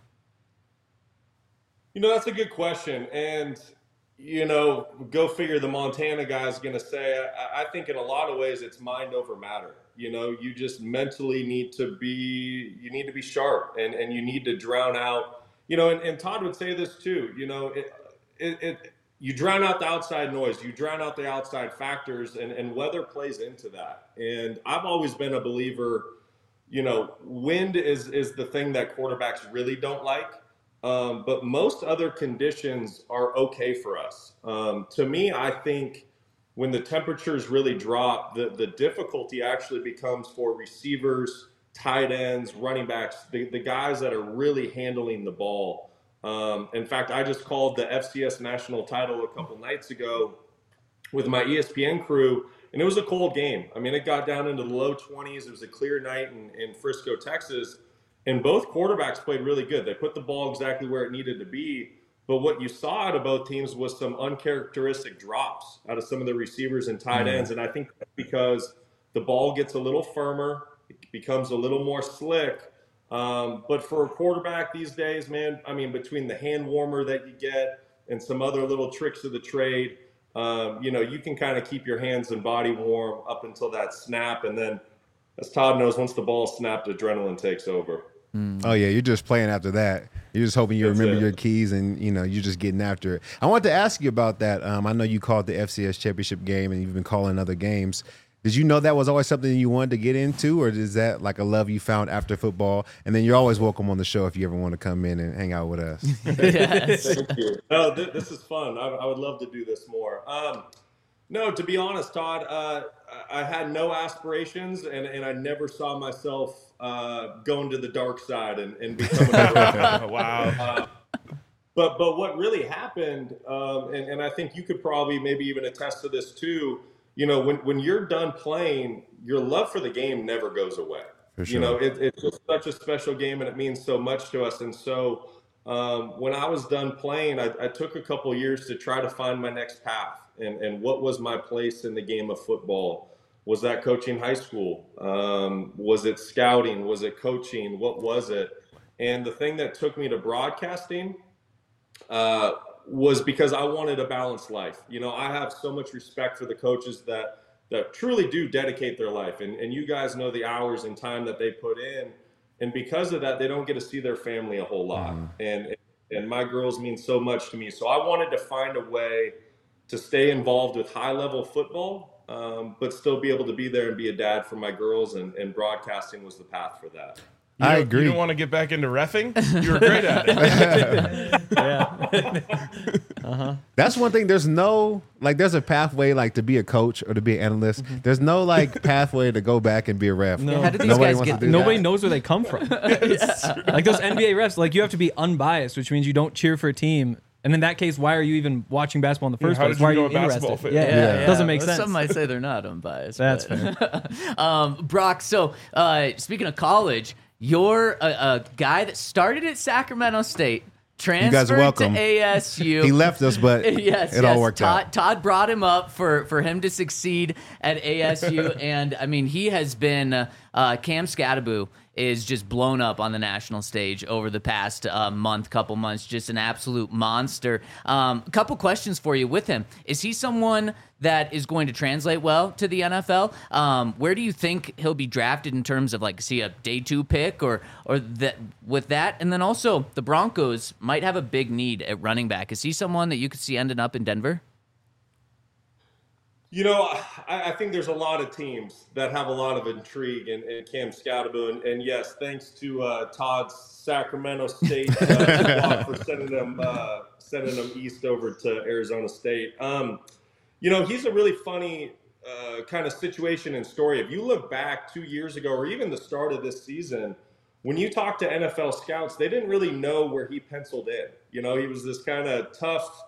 You know, that's a good question. And, you know, go figure the Montana guy's going to say, I, I think in a lot of ways it's mind over matter. You know, you just mentally need to be, you need to be sharp and, and you need to drown out, you know, and, and Todd would say this too, you know, it, it, it you drown out the outside noise, you drown out the outside factors, and, and weather plays into that. And I've always been a believer, you know, wind is, is the thing that quarterbacks really don't like. Um, but most other conditions are okay for us. Um, to me, I think when the temperatures really drop, the, the difficulty actually becomes for receivers, tight ends, running backs, the, the guys that are really handling the ball. Um, in fact, I just called the F C S national title a couple nights ago with my E S P N crew, and it was a cold game. I mean, it got down into the low twenties. It was a clear night in, in Frisco, Texas. And both quarterbacks played really good. They put the ball exactly where it needed to be. But what you saw out of both teams was some uncharacteristic drops out of some of the receivers and tight ends. And I think that's because the ball gets a little firmer, it becomes a little more slick. Um, but for a quarterback these days, man, I mean, between the hand warmer that you get and some other little tricks of the trade, um, you know, you can kind of keep your hands and body warm up until that snap. And then, as Todd knows, once the ball's snapped, adrenaline takes over. Oh yeah, you're just playing after that. You're just hoping you That's remember it. your keys, and you know you're just getting after it. I wanted to ask you about that. Um, I know you called the F C S championship game, and you've been calling other games. Did you know that was always something you wanted to get into, or is that like a love you found after football? And then you're always welcome on the show if you ever want to come in and hang out with us. Yes. Thank you. No, th- this is fun. I, I would love to do this more. Um, no, to be honest, Todd, uh, I I had no aspirations, and, and I never saw myself uh, going to the dark side and, and becoming a Wow. uh, but but what really happened, um, and, and I think you could probably maybe even attest to this too, you know, when, when you're done playing, your love for the game never goes away. For You know, sure. it, it's just such a special game and it means so much to us. And so um, when I was done playing, I, I took a couple years to try to find my next path and, and what was my place in the game of football. Was that coaching high school? Um, was it scouting? Was it coaching? What was it? And the thing that took me to broadcasting uh, was because I wanted a balanced life. You know, I have so much respect for the coaches that that truly do dedicate their life. And, and you guys know the hours and time that they put in. And because of that, they don't get to see their family a whole lot. Mm. And, and my girls mean so much to me. So I wanted to find a way to stay involved with high level football, um, but still be able to be there and be a dad for my girls. And, and broadcasting was the path for that. You I don't, agree. You don't want to get back into reffing? You were great at it. Yeah. uh-huh. That's one thing. There's no, like, there's a pathway, like, to be a coach or to be an analyst. Mm-hmm. There's no, like, pathway to go back and be a ref. No. Yeah, how did these Nobody guys wants get to do Nobody that. knows where they come from. Like those N B A refs, like you have to be unbiased, which means you don't cheer for a team. And in that case, why are you even watching basketball in the first how place? did you Why are go you with basketball interested? fit? Yeah, Yeah. yeah, it doesn't make Well, sense. Some might say they're not unbiased. That's but- fair. um, Brock, so uh, speaking of college, you're a, a guy that started at Sacramento State, transferred guys are welcome. to A S U. He left us, but yes, it yes. all worked Todd, out. Todd brought him up for, for him to succeed at A S U, and I mean he has been uh, uh, Cam Scattaboo is just blown up on the national stage over the past uh, month, couple months. Just an absolute monster. Um, a couple questions for you with him. Is he someone that is going to translate well to the N F L? Um, where do you think he'll be drafted in terms of like, is he a day two pick or or that with that? And then also the Broncos might have a big need at running back. Is he someone that you could see ending up in Denver? You know, I, I think there's a lot of teams that have a lot of intrigue in, in Cam Scattaboo. And, and yes, thanks to uh, Todd's Sacramento State uh, for sending him, uh, sending him east over to Arizona State. Um, you know, he's a really funny uh, kind of situation and story. If you look back two years ago or even the start of this season, when you talk to N F L scouts, they didn't really know where he penciled in. You know, he was this kind of tough,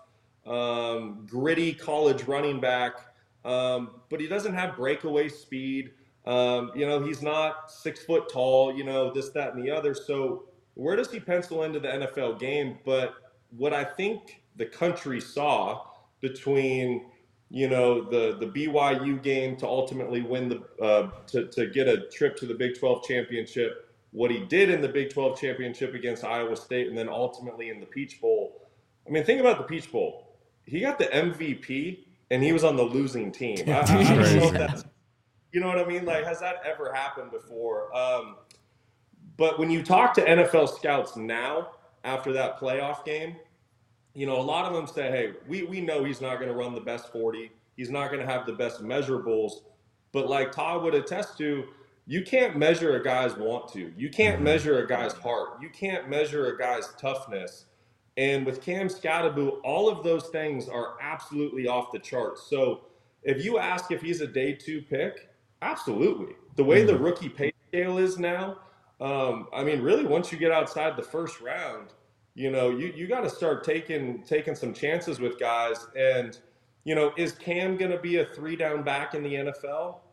um, gritty college running back. Um, but he doesn't have breakaway speed. Um, you know, he's not six foot tall, you know, this, that, and the other. So where does he pencil into the N F L game? But what I think the country saw between, you know, the, the B Y U game to ultimately win the, uh, to, to get a trip to the Big twelve championship, what he did in the Big twelve championship against Iowa State, and then ultimately in the Peach Bowl. I mean, think about the Peach Bowl. He got the M V P. And he was on the losing team. I, I, I don't know if that's, you know what I mean? Like, has that ever happened before? Um, but when you talk to N F L scouts now, after that playoff game, you know, a lot of them say, hey, we, we know he's not going to run the best forty. He's not going to have the best measurables. But like Todd would attest to, you can't measure a guy's want to. You can't measure a guy's heart. You can't measure a guy's toughness. And with Cam Scattaboo, all of those things are absolutely off the charts. So if you ask if he's a day two pick, absolutely. The way the rookie pay scale is now, um, I mean, really, once you get outside the first round, you know, you, you got to start taking taking some chances with guys. And, you know, is Cam going to be a three down back in the N F L?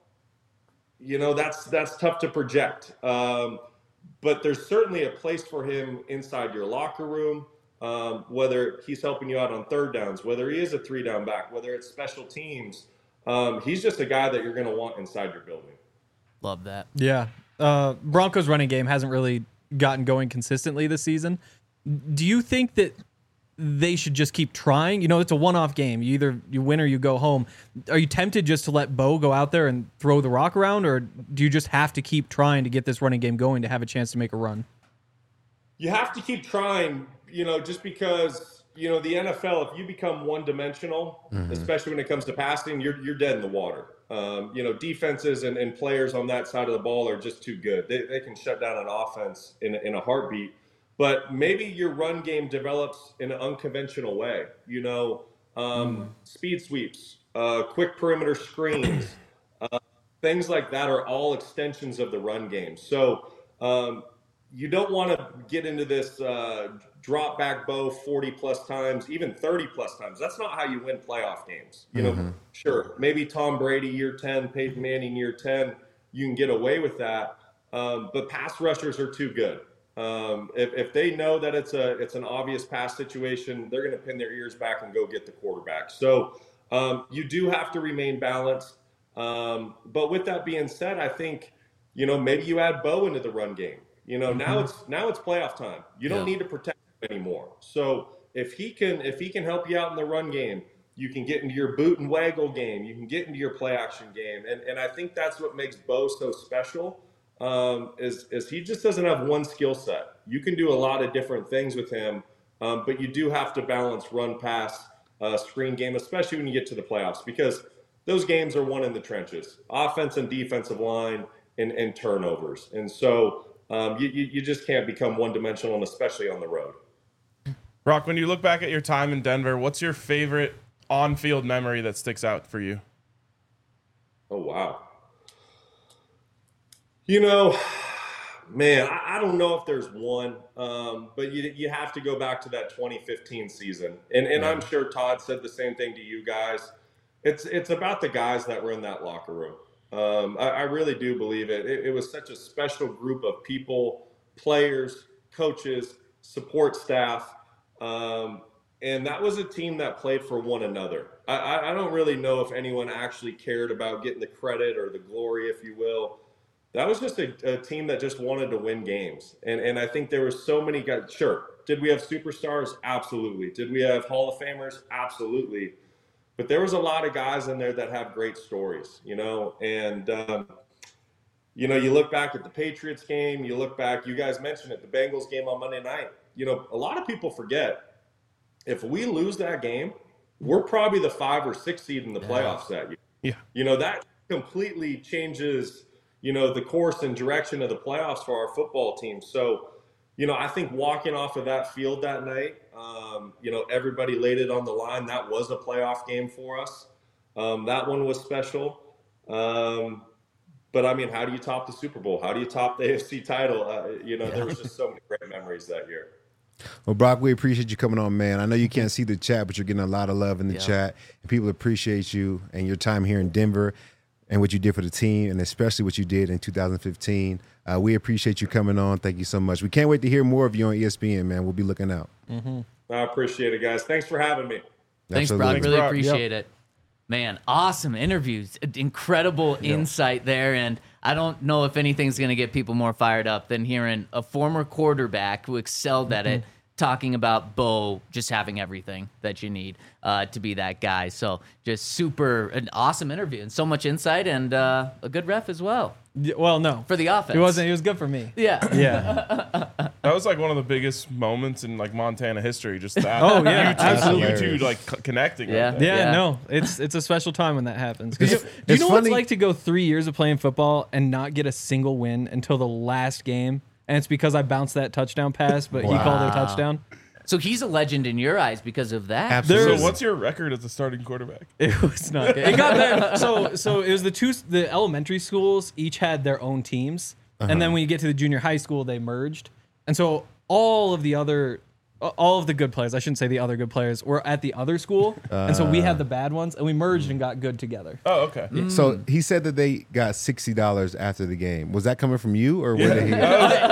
You know, that's that's tough to project. Um, but there's certainly a place for him inside your locker room. Um, whether he's helping you out on third downs, whether he is a three down back, whether it's special teams, um, he's just a guy that you're going to want inside your building. Love that. Yeah. Uh, Broncos running game hasn't really gotten going consistently this season. Do you think that they should just keep trying? You know, it's a one-off game. You either you win or you go home. Are you tempted just to let Bo go out there and throw the rock around, or do you just have to keep trying to get this running game going to have a chance to make a run? You have to keep trying, you know, just because, you know, the N F L, if you become one-dimensional, mm-hmm. especially when it comes to passing, you're you're dead in the water. Um, you know, defenses and, and players on that side of the ball are just too good. They they can shut down an offense in, in a heartbeat. But maybe your run game develops in an unconventional way. You know, um, mm-hmm. speed sweeps, uh, quick perimeter screens, uh, things like that are all extensions of the run game. So, um, you don't want to get into this uh, drop back Bo forty plus times, even thirty plus times. That's not how you win playoff games. You know, mm-hmm. Sure, maybe Tom Brady year ten, Peyton Manning year ten, you can get away with that. Um, but pass rushers are too good. Um, if, if they know that it's a it's an obvious pass situation, they're going to pin their ears back and go get the quarterback. So um, you do have to remain balanced. Um, but with that being said, I think, you know, maybe you add Bo into the run game. You know, now it's now it's playoff time. You don't Yeah. need to protect him anymore. So if he can if he can help you out in the run game, you can get into your boot and waggle game. You can get into your play action game. And and I think that's what makes Bo so special. Um, is is he just doesn't have one skill set. You can do a lot of different things with him, um, but you do have to balance run, pass, uh, screen game, especially when you get to the playoffs, because those games are won in the trenches, offense and defensive line, and, and turnovers. And so um, you, you you just can't become one dimensional, and especially on the road. Brock, when you look back at your time in Denver, what's your favorite on-field memory that sticks out for you? Oh, wow. You know, man, I, I don't know if there's one, um, but you you have to go back to that twenty fifteen season. And and I'm sure Todd said the same thing to you guys. It's it's about the guys that were in that locker room. Um, I, I really do believe it. it. It was such a special group of people, players, coaches, support staff. Um, and that was a team that played for one another. I, I, I don't really know if anyone actually cared about getting the credit or the glory, if you will. That was just a, a team that just wanted to win games. And and I think there were so many guys. Sure. Did we have superstars? Absolutely. Did we have Hall of Famers? Absolutely. But there was a lot of guys in there that have great stories, you know, and, um, you know, you look back at the Patriots game, you look back, you guys mentioned it, the Bengals game on Monday night. You know, a lot of people forget, if we lose that game, we're probably the five or six seed in the playoffs that year. Yeah. You know, that completely changes, you know, the course and direction of the playoffs for our football team. So, you know, I think walking off of that field that night, um, you know, everybody laid it on the line. That was a playoff game for us. Um, that one was special. Um, but, I mean, how do you top the Super Bowl? How do you top the A F C title? Uh, you know, yeah. There was just so many great memories that year. Well, Brock, we appreciate you coming on, man. I know you can't see the chat, but you're getting a lot of love in the yeah. chat. And people appreciate you and your time here in Denver and what you did for the team, and especially what you did in two thousand fifteen. Uh, we appreciate you coming on. Thank you so much. We can't wait to hear more of you on E S P N, man. We'll be looking out. Mm-hmm. I appreciate it, guys. Thanks for having me. Thanks, Absolutely. Brock. Really Brock. appreciate Yep. it. Man, awesome interviews. Incredible insight there. And I don't know if anything's going to get people more fired up than hearing a former quarterback who excelled at it talking about Bo just having everything that you need uh, to be that guy. So just super, an awesome interview and so much insight and uh, a good ref as well Yeah, well, no. for the offense. It wasn't. It was good for me. Yeah. Yeah. That was like one of the biggest moments in like Montana history. Just that. Oh, yeah, you two, absolutely. you two like c- connecting. Yeah. Like that. Yeah, Yeah. no, it's it's a special time when that happens. 'Cause It's- you- do you it's know what it's funny- like to go three years of playing football and not get a single win until the last game? And it's because I bounced that touchdown pass, but he called it a touchdown. So he's a legend in your eyes because of that. Absolutely. So what's your record as a starting quarterback? It was not good. It got better. So so it was the two the elementary schools each had their own teams, and then when you get to the junior high school, they merged, and so all of the other. All of the good players, I shouldn't say the other good players, were at the other school. and so we had the bad ones, and we merged and got good together. Oh, okay. So he said that they got sixty dollars after the game. Was that coming from you, or where did he? If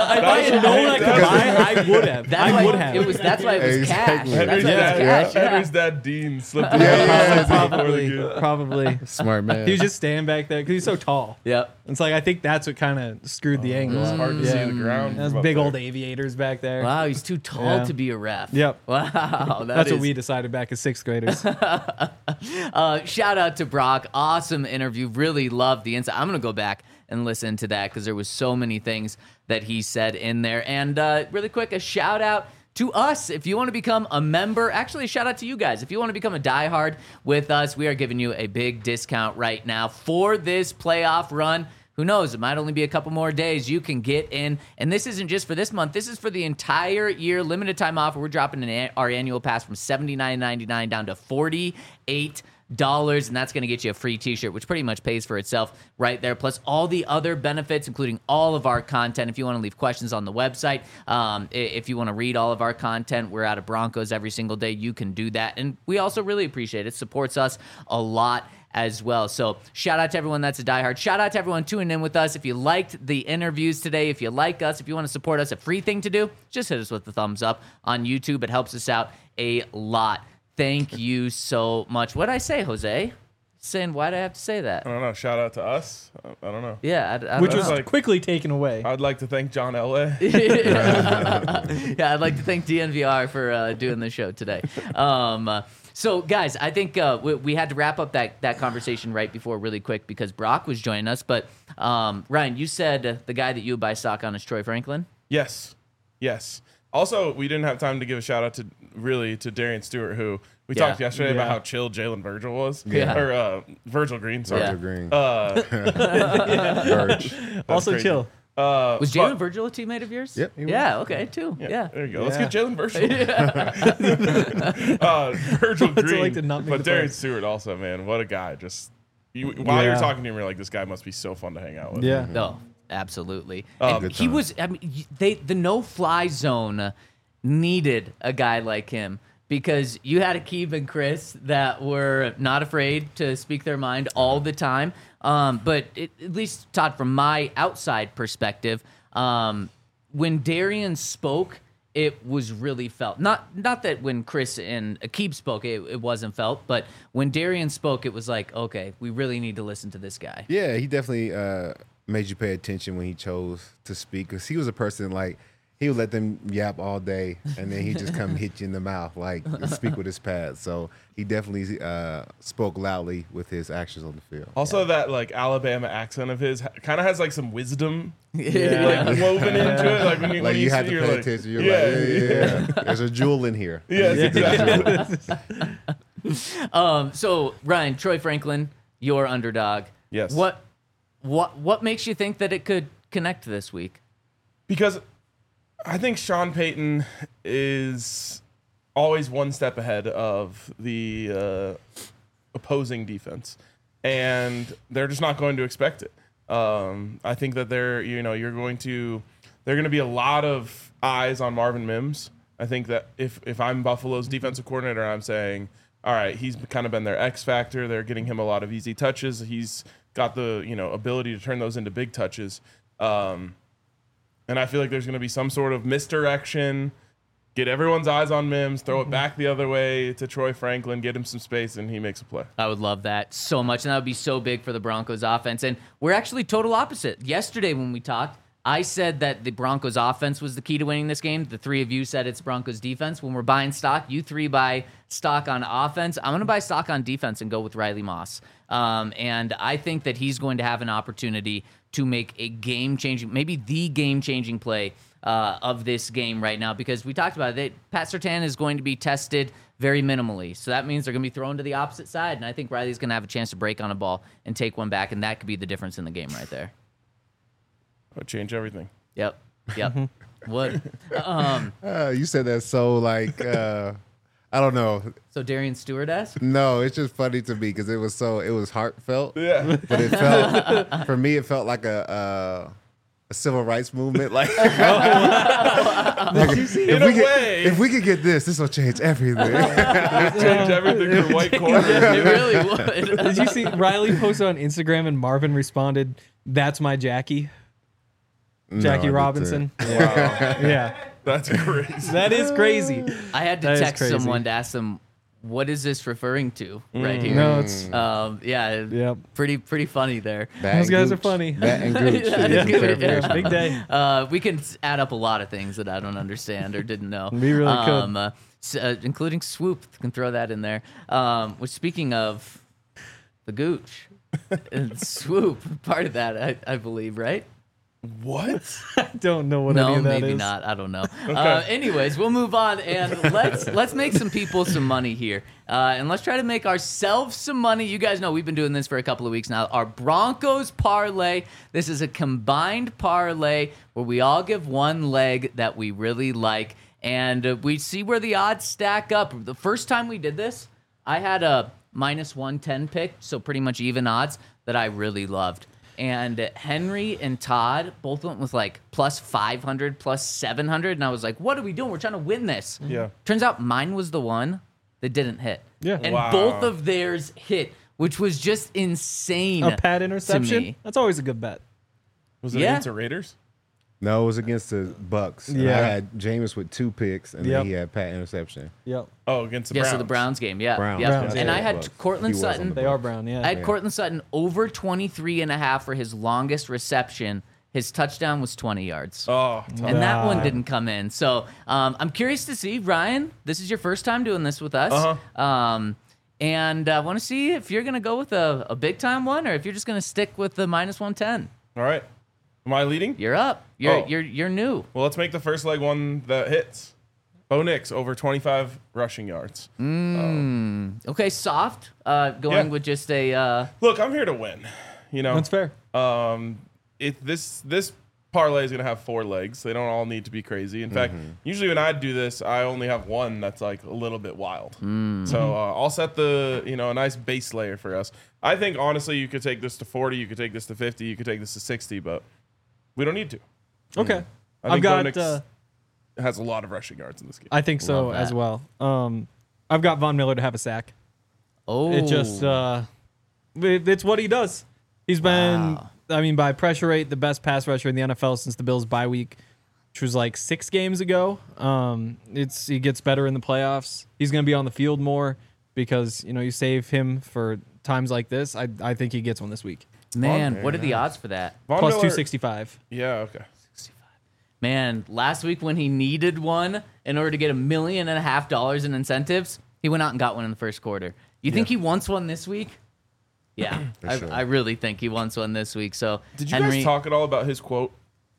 I had known I could buy, I would have. That's I why would have. it was. That's why it was Exactly. cash. That's Henry's why it was dad, cash. Yeah. Henry's dad, Dean, slipped in Yeah, the yeah, before the probably, game. probably. Smart man. He was just standing back there because he's so tall. Yep. It's like I think that's what kind of screwed the angle. It's hard to Yeah. see the ground. Those from up big there. old aviators back there. Wow, he's too tall Yeah. to be a ref. Yep. Wow, that That's what is- we decided back as sixth graders. Uh, shout out to Brock. Awesome interview. Really loved the insight. I'm going to go back and listen to that because there was so many things that he said in there. And uh, really quick, a shout out to us. If you want to become a member, actually, a shout out to you guys. If you want to become a diehard with us, we are giving you a big discount right now for this playoff run. Who knows? It might only be a couple more days. You can get in. And this isn't just for this month. This is for the entire year. Limited time offer. We're dropping an, our annual pass from seventy-nine ninety-nine down to forty-eight dollars. And that's going to get you a free t-shirt, which pretty much pays for itself right there. Plus all the other benefits, including all of our content. If you want to leave questions on the website, um, if you want to read all of our content, we're out of Broncos every single day. You can do that. And we also really appreciate it. It supports us a lot as well. So shout out to everyone that's a diehard. Shout out to everyone tuning in with us. If you liked the interviews today, if you like us, if you want to support us, a free thing to do, just hit us with the thumbs up on YouTube. It helps us out a lot. Thank you so much. What'd I say, Jose? saying, why'd I have to say that? I don't know. Shout out to us. I I don't know. Yeah, I, I Which don't was know. like- quickly taken away. I'd like to thank John Elway. Yeah, I'd like to thank D N V R for uh, doing the show today. Um, uh, so, guys, I think uh, we, we had to wrap up that, that conversation right before really quick because Brock was joining us. But, um, Ryan, you said uh, the guy that you would buy stock on is Troy Franklin? Yes. Yes. Also, we didn't have time to give a shout out to really to Darian Stewart, who we Yeah. talked yesterday about Yeah. how chill Jalen Virgil was. Yeah. Or uh, Virgil Green, sorry. Yeah. Virgil Green. Uh, Verge. Also crazy. chill. uh, Was but- Jalen Virgil a teammate of yours? Yep, he was. Yeah, okay, too. Yeah. Yeah, there you go. Let's Yeah. get Jalen Virgil. uh, Virgil What's it Green, like to not make but the Darian playoffs? Stewart also, man, what a guy! Just you, while you were Yeah. talking to him, you're like, this guy must be so fun to hang out with. Yeah. No, absolutely. Um, And Good he time. was. I mean, y- they the no fly zone needed a guy like him because you had Akeem and Chris that were not afraid to speak their mind all the time. Um, but it, at least Todd, from my outside perspective, um, when Darian spoke, it was really felt. Not not that when Chris and Akeem spoke, it, it wasn't felt, but when Darian spoke, it was like, okay, we really need to listen to this guy. Yeah, he definitely uh, made you pay attention when he chose to speak because he was a person like he would let them yap all day and then he just come hit you in the mouth like speak with his pads. So he definitely uh, spoke loudly with his actions on the field. Also, that like Alabama accent of his kind of has like some wisdom Yeah. like woven into it. Like when you, Like when you have see- to you're pay like, attention. You're yeah, like, yeah, yeah, yeah. There's a jewel in here. Yes, exactly. Um, so Ryan, Troy Franklin, your underdog. Yes. What, what, what makes you think that it could connect this week? Because I think Sean Payton is always one step ahead of the uh, opposing defense, and they're just not going to expect it. Um, I think that they're, you know, you're going to, there are going to be a lot of eyes on Marvin Mims. I think that if if I'm Buffalo's defensive coordinator, I'm saying, all right, he's kind of been their X factor. They're getting him a lot of easy touches. He's got the, you know, ability to turn those into big touches. Um, and I feel like there's going to be some sort of misdirection, get everyone's eyes on Mims, throw it back the other way to Troy Franklin, get him some space, and he makes a play. I would love that so much, and that would be so big for the Broncos offense. And we're actually total opposite. Yesterday when we talked, I said that the Broncos offense was the key to winning this game. The three of you said it's Broncos defense. When we're buying stock, you three buy stock on offense. I'm going to buy stock on defense and go with Riley Moss. Um, and I think that he's going to have an opportunity to make a game-changing, maybe the game-changing play uh, of this game right now, because we talked about it. Pat Surtain is going to be tested very minimally. So that means they're going to be thrown to the opposite side, and I think Riley's going to have a chance to break on a ball and take one back, and that could be the difference in the game right there. That would change everything. Yep. Yep. What? Um, Uh, you said that so like uh, I don't know. so Darian Stewart-esque? No, it's just funny to me because it was so it was heartfelt. Yeah. But it felt for me it felt like a uh, a civil rights movement. Like, like, if In we a could, way. if we could get this, this will change everything. Change everything for white corner. It really would. Did you see Riley posted on Instagram and Marvin responded, "That's my Jackie, No, I Jackie didn't. Robinson." Wow. Yeah, That's crazy. that is crazy. I had to That is text crazy. someone to ask them, what is this referring to right here? No, it's Um, yeah, Yep. pretty pretty funny there. That Those and guys are Gooch. funny. That and Gooch. That Yeah, is good. yeah, big day. Uh, we can s- add up a lot of things that I don't understand or didn't know. We really could. um, uh, s- uh, including swoop. Can throw that in there. Um, which, speaking of the gooch and swoop, part of that, I, I believe, right? What? Don't know what any No, of that maybe is. not. I don't know. Uh, anyways, we'll move on and let's let's make some people some money here, uh, and let's try to make ourselves some money. You guys know we've been doing this for a couple of weeks now. Our Broncos parlay. This is a combined parlay where we all give one leg that we really like, and uh, we see where the odds stack up. The first time we did this, I had a minus one ten pick, so pretty much even odds that I really loved. And Henry and Todd both went with like plus five hundred, plus seven hundred. And I was like, what are we doing? We're trying to win this. Yeah. Turns out mine was the one that didn't hit. Yeah. And Wow. both of theirs hit, which was just insane. A pad to interception. me. That's always a good bet. Was it Yeah. against the Raiders? No, it was against the Bucks. And Yeah. I had Jameis with two picks, and Yep. then he had Pat interception. Yep. Oh, against the Yeah, Browns. so the Browns game, yeah. Browns. yeah. Browns. And Yeah, I had Bucks. He Cortland was on Sutton. the They are brown, yeah. I had Yeah. Cortland Sutton over twenty-three and a half for his longest reception. His touchdown was twenty yards. Oh, tough. And that one Wow. didn't come in. So um, I'm curious to see, Ryan, this is your first time doing this with us. Uh-huh. Um, and I want to see if you're going to go with a, a big time one or if you're just going to stick with the minus one ten. All right. Am I leading? You're up. You're, Oh. you're, you're new. Well, let's make the first leg one that hits. Bo Nix over twenty-five rushing yards. Okay, soft. Uh, going Yeah. with just a. Uh, Look, I'm here to win. You know, That's fair. Um, it this this parlay is gonna have four legs. They don't all need to be crazy. In fact, usually when I do this, I only have one that's like a little bit wild. So uh, I'll set the you know a nice base layer for us. I think honestly, you could take this to forty, you could take this to fifty, you could take this to sixty, but we don't need to. Okay. I I've think Bo got. Nix Uh, has a lot of rushing yards in this game. I think so Love as that. well. Um, I've got Von Miller to have a sack. oh. It just uh, it, it's what he does. He's been, Wow. I mean, by pressure rate, the best pass rusher in the N F L since the Bills' bye week, which was like six games ago. Um, it's he gets better in the playoffs. He's going to be on the field more because you know you save him for times like this. I I think he gets one this week. Man, what are the odds for that? Von Plus Miller- two sixty five. Yeah, okay. Man, last week when he needed one in order to get a million and a half dollars in incentives, he went out and got one in the first quarter. You think he wants one this week? Yeah, I, sure. I really think he wants one this week. So Did you Henry, guys talk at all about his quote?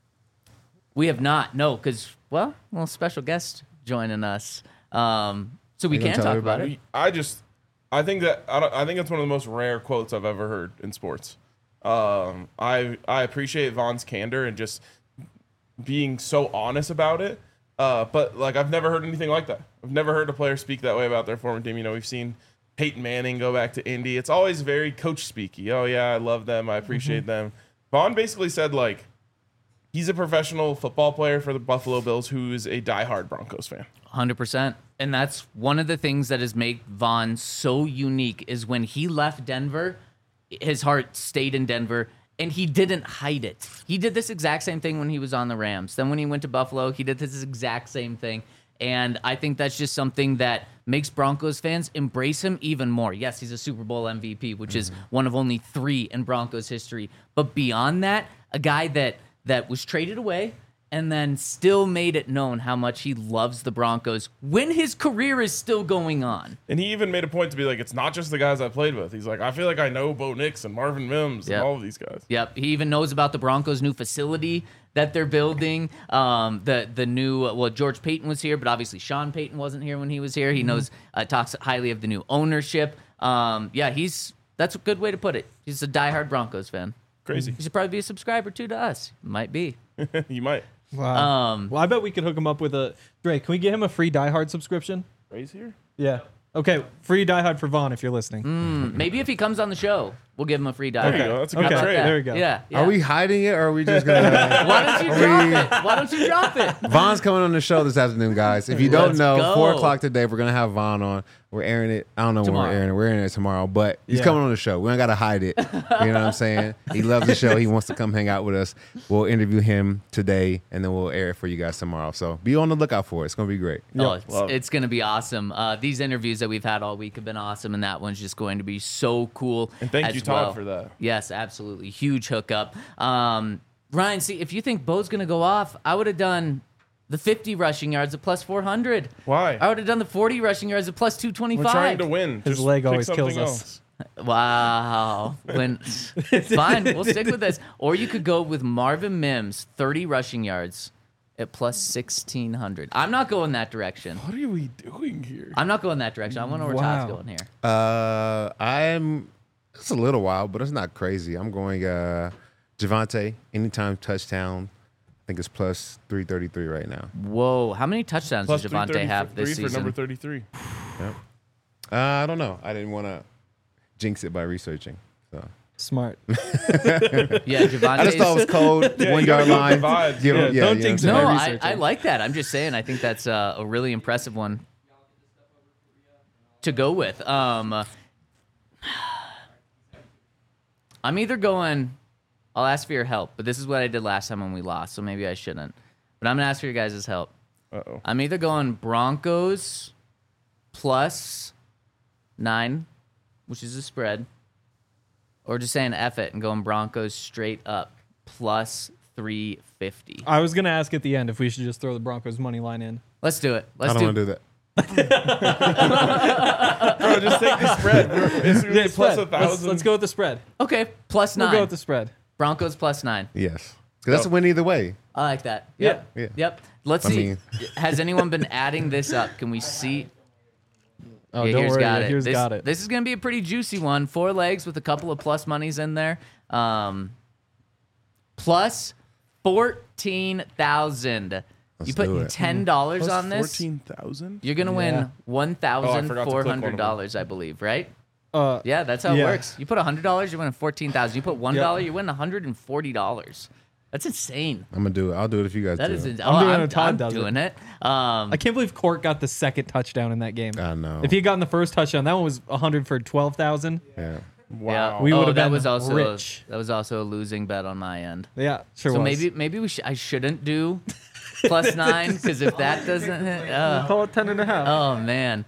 we have not, no, because well, well, special guest joining us, um, so we You gonna can tell talk about everybody? it. I just, I think that I, don't, I think it's one of the most rare quotes I've ever heard in sports. Um, I I appreciate Von's candor and just being so honest about it. Uh, but like I've never heard anything like that. I've never heard a player speak that way about their former team. You know, we've seen Peyton Manning go back to Indy. It's always very coach speaky. Oh yeah, I love them. I appreciate them. Vaughn basically said like he's a professional football player for the Buffalo Bills who is a diehard Broncos fan. one hundred percent. And that's one of the things that has made Vaughn so unique is when he left Denver, his heart stayed in Denver, and he didn't hide it. He did this exact same thing when he was on the Rams. Then when he went to Buffalo, he did this exact same thing. And I think that's just something that makes Broncos fans embrace him even more. Yes, he's a Super Bowl M V P, which is one of only three in Broncos history. But beyond that, a guy that that was traded away and then still made it known how much he loves the Broncos when his career is still going on. And he even made a point to be like, it's not just the guys I played with. He's like, I feel like I know Bo Nix and Marvin Mims Yep. and all of these guys. Yep, he even knows about the Broncos' new facility that they're building. Um, the the new well, George Payton was here, but obviously Sean Payton wasn't here when he was here. He knows uh, talks highly of the new ownership. Um, yeah, he's that's a good way to put it. He's a diehard Broncos fan. Crazy. He should probably be a subscriber too to us. Might be. You might. Wow. Um, well, I bet we could hook him up with a Drake. Can we get him a free Die Hard subscription? Raise here? Yeah. Okay, free Die Hard for Vaughn if you're listening. maybe if he comes on the show, we'll give him a free There dive. you go. That's a good Okay. trade. There we go. Yeah, yeah. Are we hiding it, or are we just gonna? Why don't you Are drop we- it? Why don't you drop it? Von's coming on the show this afternoon, guys. If you don't Let's know, go. four o'clock today, we're gonna have Von on. We're airing it. I don't know Tomorrow. when we're airing it. We're airing it tomorrow, but he's Yeah. coming on the show. We don't gotta hide it. You know what I'm saying? He loves the show. He wants to come hang out with us. We'll interview him today, and then we'll air it for you guys tomorrow. So be on the lookout for it. It's gonna be great. Oh, it's, love it. it's going to be awesome. Uh, these interviews that we've had all week have been awesome, and that one's just going to be so cool. And thank as you, Todd, well. for that. Yes, absolutely. Huge hookup. Um, Ryan, see, if you think Bo's going to go off, I would have done the fifty rushing yards at plus four hundred. Why? I would have done the forty rushing yards at plus two We're twenty-five. trying to win. His Just leg pick always something kills us. else. Wow. When fine, we'll stick with this. Or you could go with Marvin Mims, thirty rushing yards at plus sixteen hundred. I'm not going that direction. What are we doing here? I'm not going that direction. I want to know where Wow. Todd's going here. Uh, I'm. It's a little wild, but it's not crazy. I'm going uh, Javante anytime touchdown. I think it's plus three thirty-three right now. Whoa, how many touchdowns Plus does Javante have this three for number season? thirty-three. Uh, I don't know. I didn't want to jinx it by researching. So Smart. Yeah, Javante. I just thought it was cold. Yeah, one you gotta yard go line. with the vibes. Give Yeah, him- yeah, don't you jinx know it. what No, I'm I, saying? I like that. I'm just saying. I think that's uh, a really impressive one to go with. Um, I'm either going I'll ask for your help, but this is what I did last time when we lost, so maybe I shouldn't. But I'm gonna ask for your guys' help. Uh-oh. I'm either going Broncos plus nine, which is a spread, or just saying F it and going Broncos straight up plus three fifty. I was gonna ask at the end if we should just throw the Broncos money line in. Let's do it. Let's I don't do, want to do that. Bro, just take the spread. We're, it's gonna Yeah, be plus spread. a Let's, thousand. let's go with the spread. Okay, plus We'll nine. go with the spread. Broncos plus nine. Yes. 'Cause that's a win either way. I like that. Yep. Yeah. Yeah. Yep. Let's I see. mean- Has anyone been adding this up? Can we see? Oh, Yeah, don't here's worry. got yeah, it. Here's this, got it. This is going to be a pretty juicy one. Four legs with a couple of plus monies in there. Um, plus fourteen thousand. You Let's do putting it. ten dollars Plus on this? fourteen thousand? You're gonna Yeah. win one thousand forgot to four click one hundred of dollars, I believe, right? Uh, Yeah, that's how it Yeah. works. You put hundred dollars, you're winning fourteen thousand. You put one dollar, Yep. you win one hundred and forty dollars. That's insane. I'm gonna do it. I'll do it if you guys That do is. it. ins- I'm oh, doing I'm, it, Todd I'm does it. doing it. Um, I can't believe Court got the second touchdown in that game. I know. If he had gotten the first touchdown, that one was one hundred for twelve thousand. Yeah. Wow. Yeah. We oh, would've that been was also rich. that was also a losing bet on my end. Yeah, sure So was. maybe maybe we sh- I shouldn't do plus nine because if that doesn't hit, uh, call it ten and a half. oh man.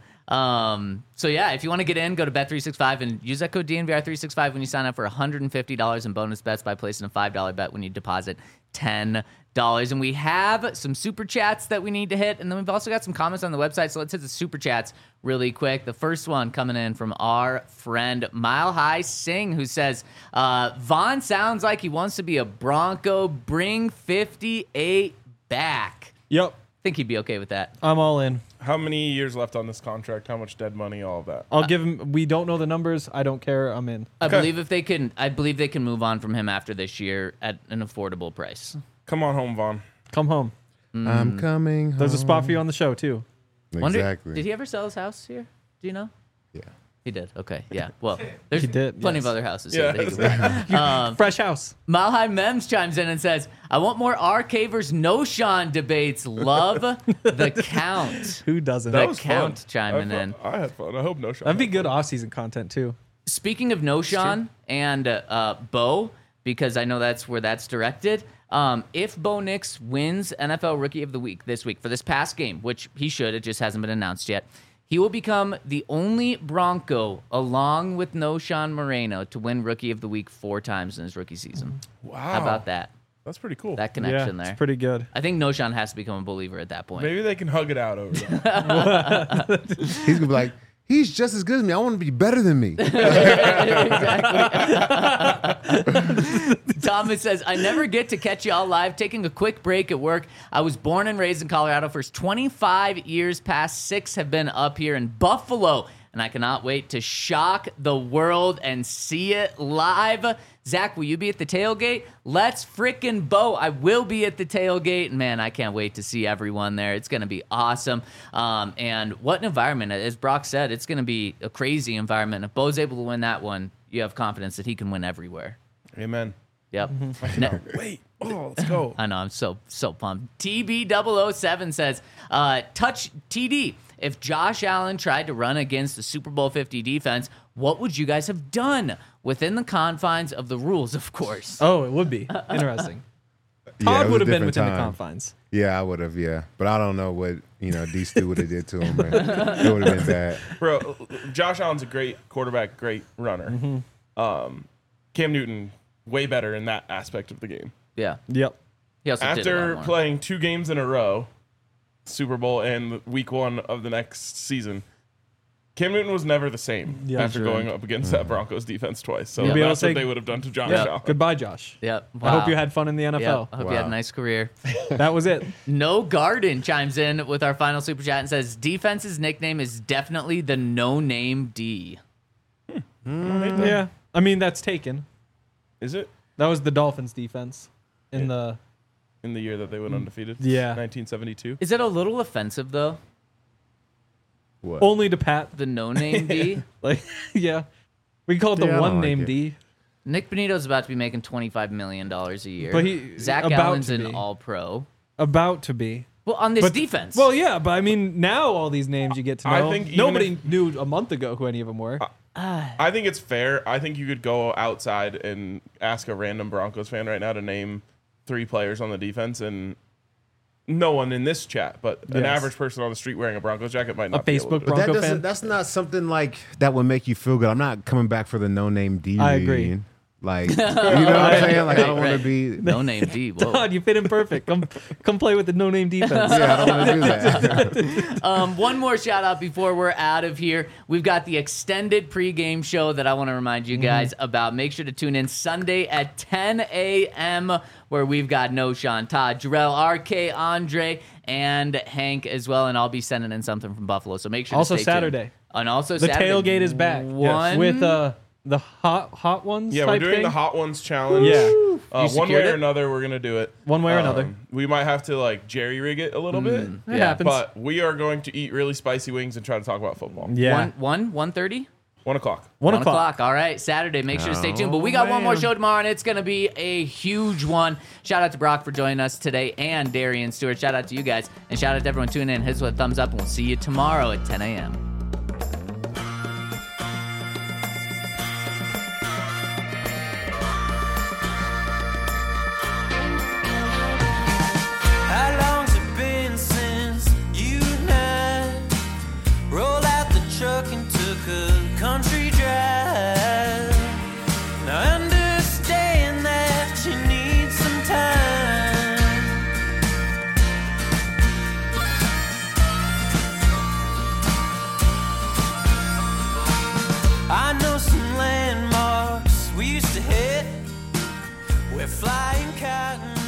Um, so yeah, if you want to get in, go to Bet three sixty-five and use that code D N V R three sixty-five when you sign up for one hundred fifty dollars in bonus bets by placing a five dollar bet when you deposit ten dollars. And we have some super chats that we need to hit, and then we've also got some comments on the website. So let's hit the super chats really quick. The first one coming in from our friend Mile High Singh, who says, uh, Vaughn sounds like he wants to be a Bronco. Bring fifty-eight back. Yep, I think he'd be okay with that. I'm all in. How many years left on this contract? How much dead money? All of that. I'll give him. We don't know the numbers. I don't care. I'm in. I Okay. believe if they can, I believe they can move on from him after this year at an affordable price. Come on home, Vaughn. Come home. I'm coming home. There's a spot for you on the show too. Wonder- Exactly. Did he ever sell his house here? Do you know? Yeah. He did. Okay. Yeah. Well, there's He did, plenty yes. of other houses Yeah. here. That he could buy. um, Fresh house. Mile High Mems chimes in and says, "I want more R. Cavers no Sean debates. Love the count." Who doesn't? That That was was Count fun. chiming I had in. fun. I had fun. I hope no shot. That'd be good off-season content too. Speaking of No Sean and uh, uh, Bo, because I know that's where that's directed. Um, if Bo Nix wins N F L Rookie of the Week this week for this past game, which he should, it just hasn't been announced yet, he will become the only Bronco, along with No Sean Moreno, to win Rookie of the Week four times in his rookie season. Wow. How about that? That's pretty cool. That Yeah, connection there. it's pretty good. I think No Sean has to become a believer at that point. Maybe they can hug it out over there. He's gonna be like, he's just as good as me. I want to be better than me. Thomas says, I never get to catch y'all live. Taking a quick break at work. I was born and raised in Colorado. First twenty-five years past six have been up here in Buffalo. And I cannot wait to shock the world and see it live. Zach, will you be at the tailgate? Let's frickin' Bo. I will be at the tailgate. Man, I can't wait to see everyone there. It's going to be awesome. Um, and what an environment. As Brock said, it's going to be a crazy environment. If Bo's able to win that one, you have confidence that he can win everywhere. Amen. Yep. No, Wait. Oh, let's go. I know. I'm so, so pumped. T B double oh seven says, uh, touch T D. If Josh Allen tried to run against the Super Bowl fifty defense, what would you guys have done? Within the confines of the rules, of course. Oh, it would be interesting. Yeah, Todd it was would a have been different within the time. confines. Yeah, I would have. Yeah, but I don't know what you know D Stu would have did to him. Man. It would have been bad. Bro, Josh Allen's a great quarterback, great runner. Mm-hmm. Um, Cam Newton, way better in that aspect of the game. Yeah. Yep. He also did a lot After more. playing two games in a row, Super Bowl and week one of the next season, Cam Newton was never the same Yeah, after sure. going up against that Broncos defense twice. So You'll be able that's to what say- they would have done to Josh Yeah. Allen. Goodbye, Josh. Yep. I hope Wow. you had fun in the N F Yep. L. I hope you had a Wow. nice career. That was it. No Garden chimes in with our final super chat and says, defense's nickname is definitely the no name D. Yeah. I mean, that's taken. Is it That was the Dolphins defense in the. in the year that they went undefeated? Yeah. nineteen seventy-two. Is it a little offensive, though? What? Only to Pat. The no name D? Like, yeah. We call it the Yeah, I don't one like name it. D. Nick Benito's about to be making twenty-five million dollars a year. But he- Zach about Allen's to an be. all pro. About to be. Well, on this But- defense. Well, yeah, but I mean, now all these names you get to I know. think even Nobody if- knew a month ago who any of them were. I think it's fair. I think you could go outside and ask a random Broncos fan right now to name three players on the defense, and no one in this chat, but an Yes. average person on the street wearing a Broncos jacket might not A be able to Facebook do it. But that Bronco doesn't. fan? That's not something like that would make you feel good. I'm not coming back for the no name D. I agree. read. Like, you know what I'm saying? Like, I don't want Right. to be. No name D. Whoa. Todd, you fit in perfect. Come, come play with the no-name defense. Yeah, I don't want to do that. Um, one more shout out before we're out of here. We've got the extended pregame show that I want to remind you guys about. Make sure to tune in Sunday at ten a.m. where we've got No Sean, Todd, Jarrell, R K, Andre, and Hank as well. And I'll be sending in something from Buffalo. So make sure Also to stay tuned. Saturday. And also The Saturday. tailgate is back. One With uh, the hot hot ones. Yeah, we're type doing thing. the Hot Ones challenge. Yeah. Uh, You one secured way or it? another, we're gonna do it. One way or Um, another. We might have to like jerry rig it a little bit, It Yeah, happens. but we are going to eat really spicy wings and try to talk about football. yeah. One, one, one thirty? One o'clock. One, One o'clock. o'clock. All right, Saturday. Make sure to stay tuned. But we Oh, got one more man. show tomorrow, and it's going to be a huge one. Shout out to Brock for joining us today, and Darian Stewart. Shout out to you guys, and shout out to everyone tuning in. Hit us with a thumbs up, and we'll see you tomorrow at ten a.m. How long's it been since you and I rolled out the truck and took a country drive? Now I understand that you need some time. I know some landmarks we used to hit where flying cotton